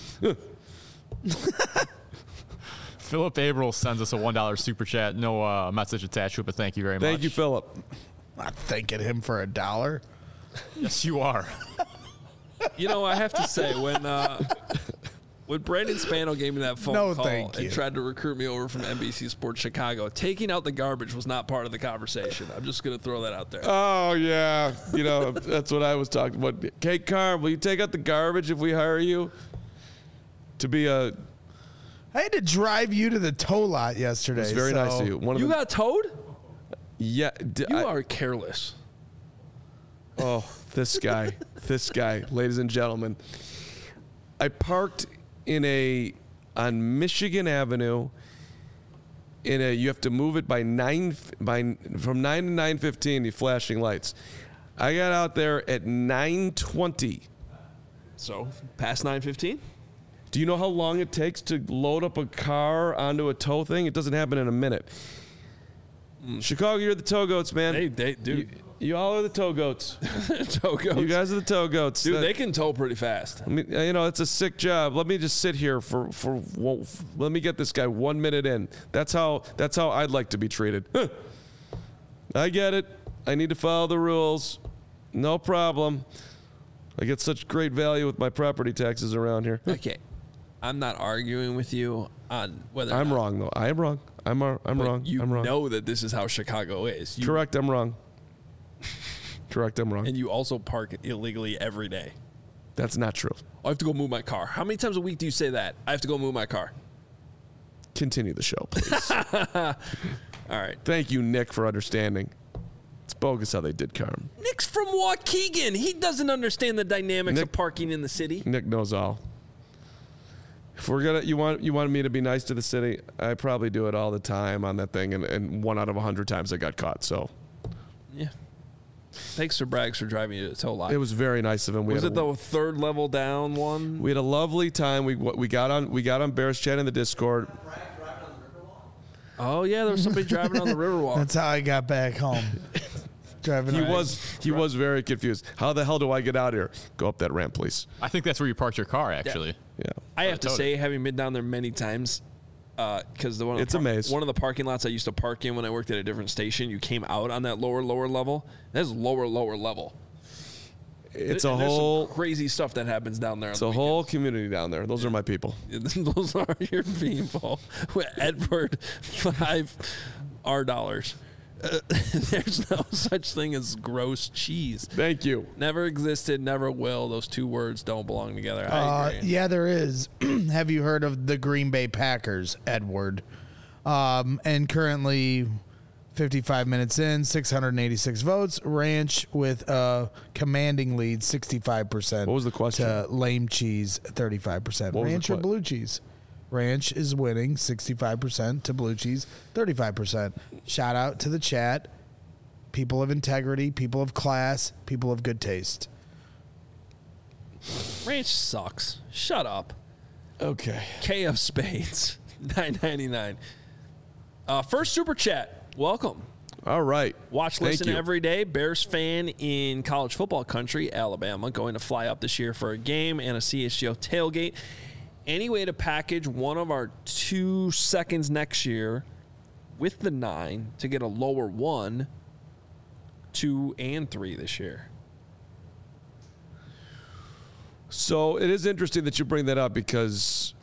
Philip Averill sends us a one dollar super chat. No uh, message attached to it, but thank you very much. Thank you, Philip. Not thanking him for a dollar. Yes, you are. You know, I have to say, when uh, when Brandon Spano gave me that phone No, call thank and you. tried to recruit me over from N B C Sports Chicago, taking out the garbage was not part of the conversation. I'm just going to throw that out there. Oh, yeah. You know, that's what I was talking about. Kate Carm, will you take out the garbage if we hire you to be a... I had to drive you to the tow lot yesterday. It's very so- nice of you. One of You the, got towed? yeah. d- You I- are careless. Oh, this guy, this guy, ladies and gentlemen. I parked in a on Michigan Avenue. In a, you have to move it by nine by from nine to nine fifteen. The flashing lights. I got out there at nine twenty. So, past nine fifteen? Do you know how long it takes to load up a car onto a tow thing? It doesn't happen in a minute. Chicago, you're the tow goats, man. They, they, dude, You, you all are the tow goats. tow goats. You guys are the tow goats. Dude, That- they can tow pretty fast. I mean, you know, it's a sick job. Let me just sit here for for. one- Let me get this guy one minute in. That's how. That's how I'd like to be treated. Huh. I get it. I need to follow the rules. No problem. I get such great value with my property taxes around here. Okay. I'm not arguing with you on whether or I'm not- wrong though. I am wrong. I'm ar- I'm but wrong. You I'm wrong. know that this is how Chicago is. You, Correct. I'm wrong. Correct. I'm wrong. And you also park illegally every day. That's not true. I have to go move my car. How many times a week do you say that? I have to go move my car. Continue the show, please. All right. Thank you, Nick, for understanding. It's bogus how they did Carm. Nick's from Waukegan. He doesn't understand the dynamics Nick- of parking in the city. Nick knows all. If we're gonna, you want you want me to be nice to the city, I probably do it all the time on that thing, and, and one out of a hundred times I got caught. So Yeah. Thanks for Braggs for driving you to the tow lot. it was very nice of him. We was had it a, the third level down one? we had a lovely time. We we got on we got on Bears Chat in the Discord. Oh yeah, there was somebody driving on the Riverwalk. That's how I got back home. Driving. He around. was he was very confused. How the hell do I get out here? Go up that ramp, please. I think that's where you parked your car, actually. Yeah. I have to towed say, having been down there many times, because the one of It's the a maze. one of the parking lots I used to park in when I worked at a different station, you came out on that lower lower level. That's lower lower level. It's And a there's some whole crazy stuff that happens down there. On it's the a whole community down there. Those are my people. weekends. Those are your people. With Edward, five R dollars. uh, there's no such thing as gross cheese. Thank you. Never existed, never will. Those two words don't belong together. I Uh, agree. yeah, there is. Have you heard of the Green Bay Packers, Edward? Um, and currently, fifty-five minutes in, six hundred eighty-six votes. Ranch with a commanding lead, sixty-five percent. What was the question? To lame cheese, thirty-five percent. What was the Ranch or que- blue cheese? Ranch is winning, sixty-five percent to blue cheese, thirty-five percent. Shout out to the chat. People of integrity, people of class, people of good taste. Ranch sucks. Shut up. Okay. K of Spades, nine ninety-nine. Uh, first super chat. Welcome. All right. Watch, Thank listen you. every day. Bears fan in college football country, Alabama, going to fly up this year for a game and a C H G O tailgate. Any way to package one of our two seconds next year with the nine to get a lower one, two, and three this year? So it is interesting that you bring that up because,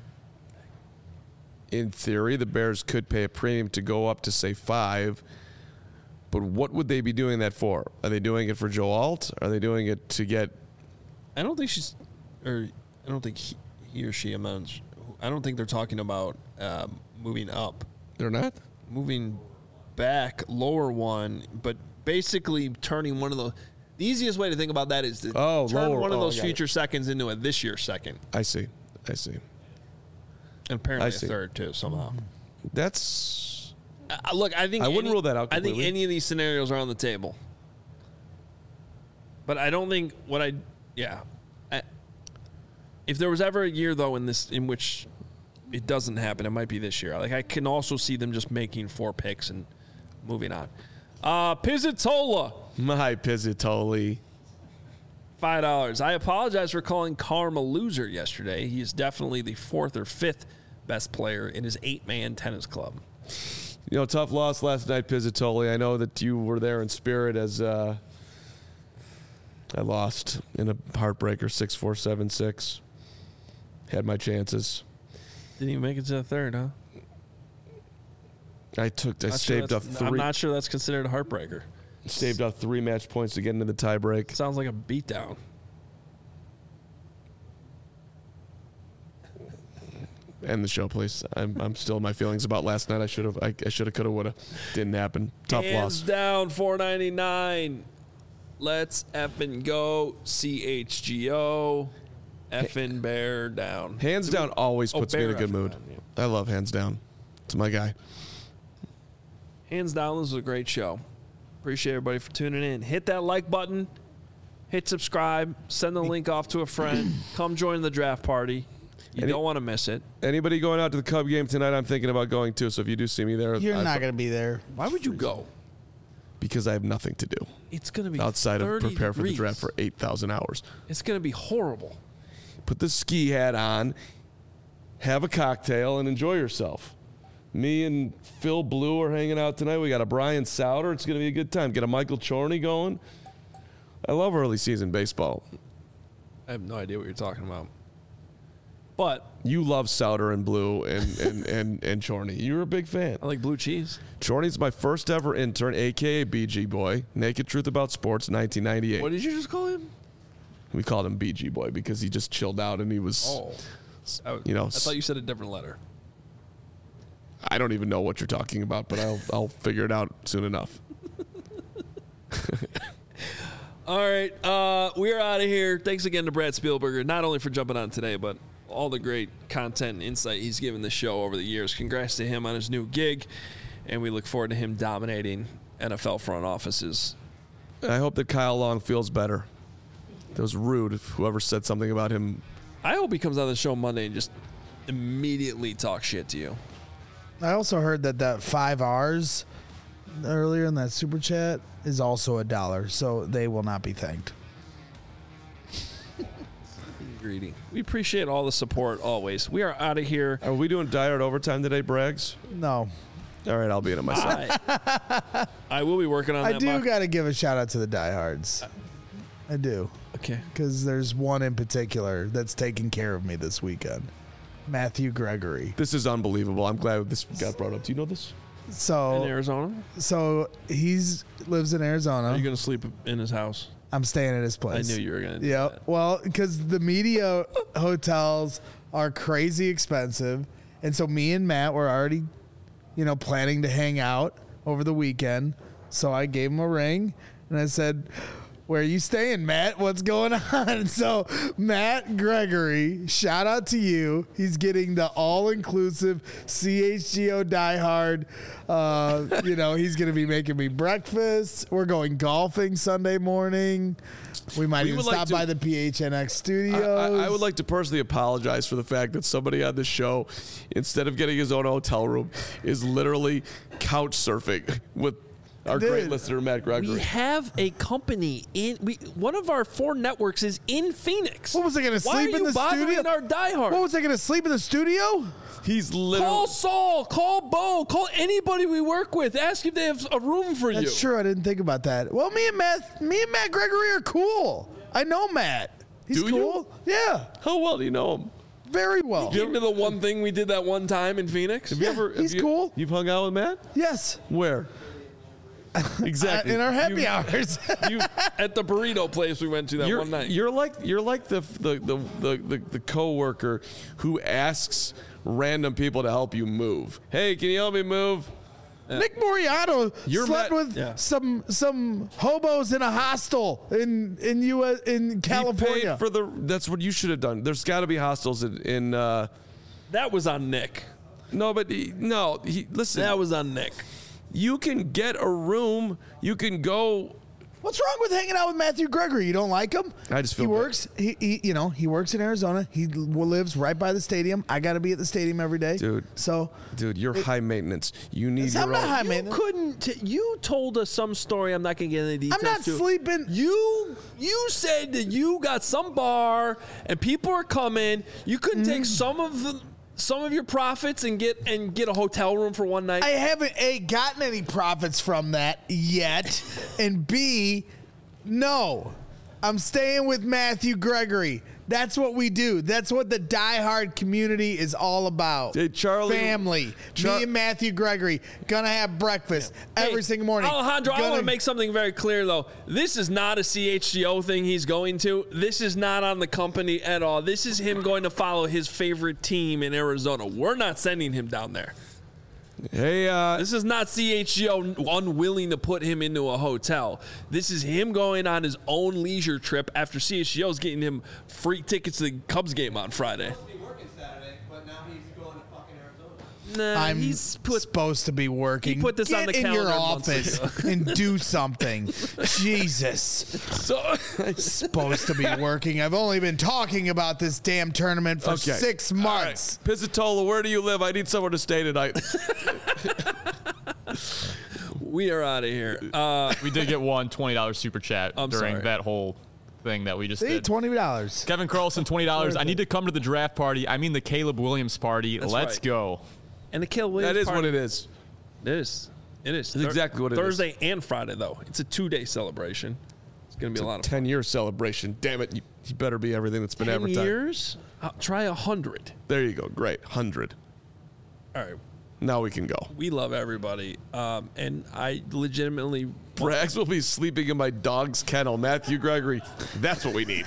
in theory, the Bears could pay a premium to go up to, say, five. But what would they be doing that for? Are they doing it for Joe Alt? Are they doing it to get... I don't think she's, or I don't think he, he or she amounts. I don't think they're talking about um, moving up, They're not? moving back, lower one, but basically turning one of the. The easiest way to think about that is to Oh, turn lower. one of Oh, those got it. future seconds into a this year second, I see. I see. and apparently I a see. third too somehow. That's... Uh, look, I think I wouldn't any- rule that out I think completely. any of these scenarios are on the table, but I don't think what I yeah. I, if there was ever a year though in this in which it doesn't happen, it might be this year. Like I can also see them just making four picks and moving on. Uh, Pizzatola, My Pizzatoli. five dollars. I apologize for calling Karm a loser yesterday. He is definitely the fourth or fifth best player in his eight-man tennis club. You know, tough loss last night, Pizzatoli. I know that you were there in spirit as uh, I lost in a heartbreaker, six four, seven six. Had my chances. Didn't even make it to the third, huh? I took, I Not sure staved up that's- three, I'm not sure that's considered a heartbreaker. staved up three match points to get into the tiebreak. Sounds like a beatdown. End the show, please. I'm, I'm still my feelings about last night. I should have, I, I should have, could have, would have. Didn't happen. Tough Hands loss. down, four ninety-nine. Let's effing go. C H G O. Effing bear down. Hands down always Oh, puts me in a Bear good effing mood. down, yeah. I love hands down. It's my guy. Hands down, this was a great show. Appreciate everybody for tuning in. Hit that like button. Hit subscribe. Send the link off to a friend. Come join the draft party. You Any- don't want to miss it. Anybody going out to the Cub game tonight? I'm thinking about going too. So if you do see me there, You're I- not going to be there. Why would you go? because I have nothing to do It's going to be outside of thirty prepare for the degrees. draft for eight thousand hours. It's going to be horrible. Put the ski hat on, have a cocktail, and enjoy yourself. Me and Phil Blue are hanging out tonight. We got a Brian Souter. It's going to be a good time. Get a Michael Chorney going. I love early season baseball. I have no idea what you're talking about. But You love Souter and Blue and, and, and, and Chorney. You're a big fan. I like blue cheese. Chorney's my first ever intern, a k a. B G Boy. Naked Truth About Sports, nineteen ninety-eight. What did you just call him? We called him B G Boy because he just chilled out and he was, Oh. I, you know, I thought you said a different letter. I don't even know what you're talking about, but I'll, I'll figure it out soon enough. All right, uh, we're out of here. Thanks again to Brad Spielberger, not only for jumping on today, but all the great content and insight he's given the show over the years. Congrats to him on his new gig, and we look forward to him dominating N F L front offices. I hope that Kyle Long feels better. That was rude, if whoever said something about him. I hope he comes on the show Monday and just immediately talks shit to you. I also heard that that five R's earlier in that super chat is also a dollar, so they will not be thanked. Greedy. We appreciate all the support always. We are out of here. Are we doing diehard overtime today, Braggs? No, All right, I'll be in it myself. I, I will be working on I that. do mock- got to give a shout out to the diehards. I do, okay. because there's one in particular that's taking care of me this weekend. Matthew Gregory. This is unbelievable. I'm glad this got brought up. Do you know this? So In Arizona? so he's lives in Arizona. Are you going to sleep in his house? I'm staying at his I place. knew you were going to do Yeah, that. well, because the media hotels are crazy expensive, and so me and Matt were already, you know, planning to hang out over the weekend. So I gave him a ring, and I said, "Where are you staying, Matt? What's going on?" And so Matt Gregory, shout out to you. He's getting the all-inclusive C H G O diehard. Uh, you know, he's going to be making me breakfast. We're going golfing Sunday morning. We might We even would like stop to- by the P H N X I, studios. I, I would like to personally apologize for the fact that somebody on the show, instead of getting his own hotel room, is literally couch surfing with our great Dude. listener, Matt Gregory. We have a company in we one of our four networks is in Phoenix. What was I going to Why sleep are in you the bothering studio? our diehard? What was I going to sleep in the studio? He's literally. Call Saul, call Bo, call anybody we work with. Ask if they have a room for you. That's true. I didn't think about that. Well, me and Matt, me and Matt Gregory are cool. I know Matt. He's Do you? cool. Yeah, How well do you know him? very well. Give me the one thing we did that one time in Phoenix. Have you Yeah, ever? have he's you- cool. You've hung out with Matt? Yes, Where? Exactly. Uh, in our happy You- hours. You, At the burrito place we went to that you're, one night. you're like you're like the the the the, the, the coworker who asks random people to help you move. Hey, can you help me move? Nick Moriarty You're slept Matt- with Yeah. some some hobos in a hostel in in U S in He California. paid for the. That's what you should have done. There's got to be hostels in. in uh, that was on Nick. no, but he, no. He, listen, That was on Nick. you can get a room. You can go. What's wrong with hanging out with Matthew Gregory? You don't like him? I just feel he bad. works. He, he you know he works in Arizona. He l- lives right by the stadium. I got to be at the stadium every day, Dude. So Dude, you're high maintenance. You need I'm your not own. high You maintenance. couldn't. You told us some story. I'm not going to get into details. I'm not to. sleeping. You you said that you got some bar and people are coming. You couldn't take some of the, some of your profits and get and get a hotel room for one night. I haven't A, gotten any profits from that yet, and B, no, I'm staying with Matthew Gregory. That's what we do. That's what the diehard community is all about. Hey, Charlie- Family. Char- Me and Matthew Gregory gonna have breakfast every Hey, single morning. Alejandro, I Gonna- want to make something very clear, though. This is not a C H G O thing he's going to. This is not on the company at all. This is him going to follow his favorite team in Arizona. We're not sending him down there. Hey, uh, This is not C H G O unwilling to put him into a hotel. This is him going on his own leisure trip after C H G O's getting him free tickets to the Cubs game on Friday. supposed to be working Saturday, but now he's going to fucking Arizona. Nah, I'm he's put. supposed to be working. He put this Get on the in your calendar months office and do something. Jesus. so Supposed to be working. I've only been talking about this damn tournament for Okay. six All right. months. Pizzatola, where do you live? I need somewhere to stay tonight. We are out of here. Uh, We did get one twenty dollars super chat I'm during sorry. that whole thing that we just See, did. twenty dollars. Kevin Carlson, twenty dollars. I need to come to the draft party. I mean the Caleb Williams party. That's Let's right. go. and the Kill Williams. That is party- what it is. It is. It is. It's exactly what it is. Thursday and Friday, though. It's a two-day celebration. It's going to be a lot of fun. ten-year celebration. Damn it, you, you better be everything that's been Ten advertised. years? I'll try a hundred. There you go. Great. one hundred. All right. Now we can go. We love everybody. Um, and I legitimately. Braggs will be sleeping in my dog's kennel. Matthew Gregory. That's what we need.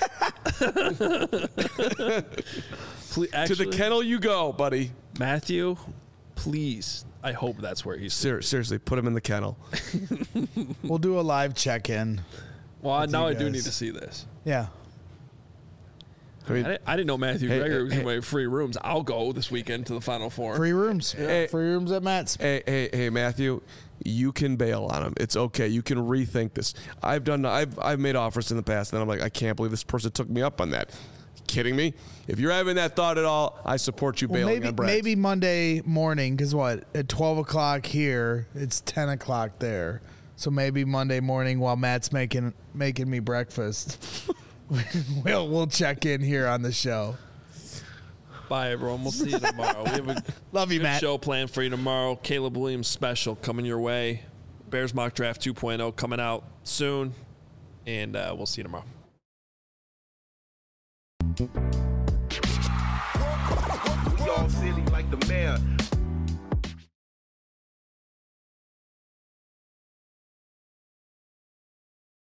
Ple- to actually, the kennel you go, buddy. Matthew, please. I hope that's where he's. Ser- seriously, put him in the kennel. We'll do a live check-in. Well, now I you do guys. need to see this. Yeah. I mean, I didn't, I didn't know Matthew Hey, Gregory hey, was hey. giving away free rooms. I'll go this weekend to the Final Four. Free rooms. Hey. Free rooms at Matt's. hey, hey, hey, Matthew, you can bail on him. It's okay. You can rethink this. I've done. I've I've made offers in the past, and I'm like, I can't believe this person took me up on that. Kidding me? If you're having that thought at all, I support you Well, bailing maybe on Braggs. maybe Monday morning, because what? At twelve o'clock here, it's ten o'clock there. So maybe Monday morning while Matt's making making me breakfast, we'll we'll check in here on the show. Bye, everyone. We'll see you tomorrow. We have a Love you, good Matt. show planned for you tomorrow. Caleb Williams special coming your way. Bears Mock Draft two point oh coming out soon. And uh, we'll see you tomorrow. We all silly like the mayor.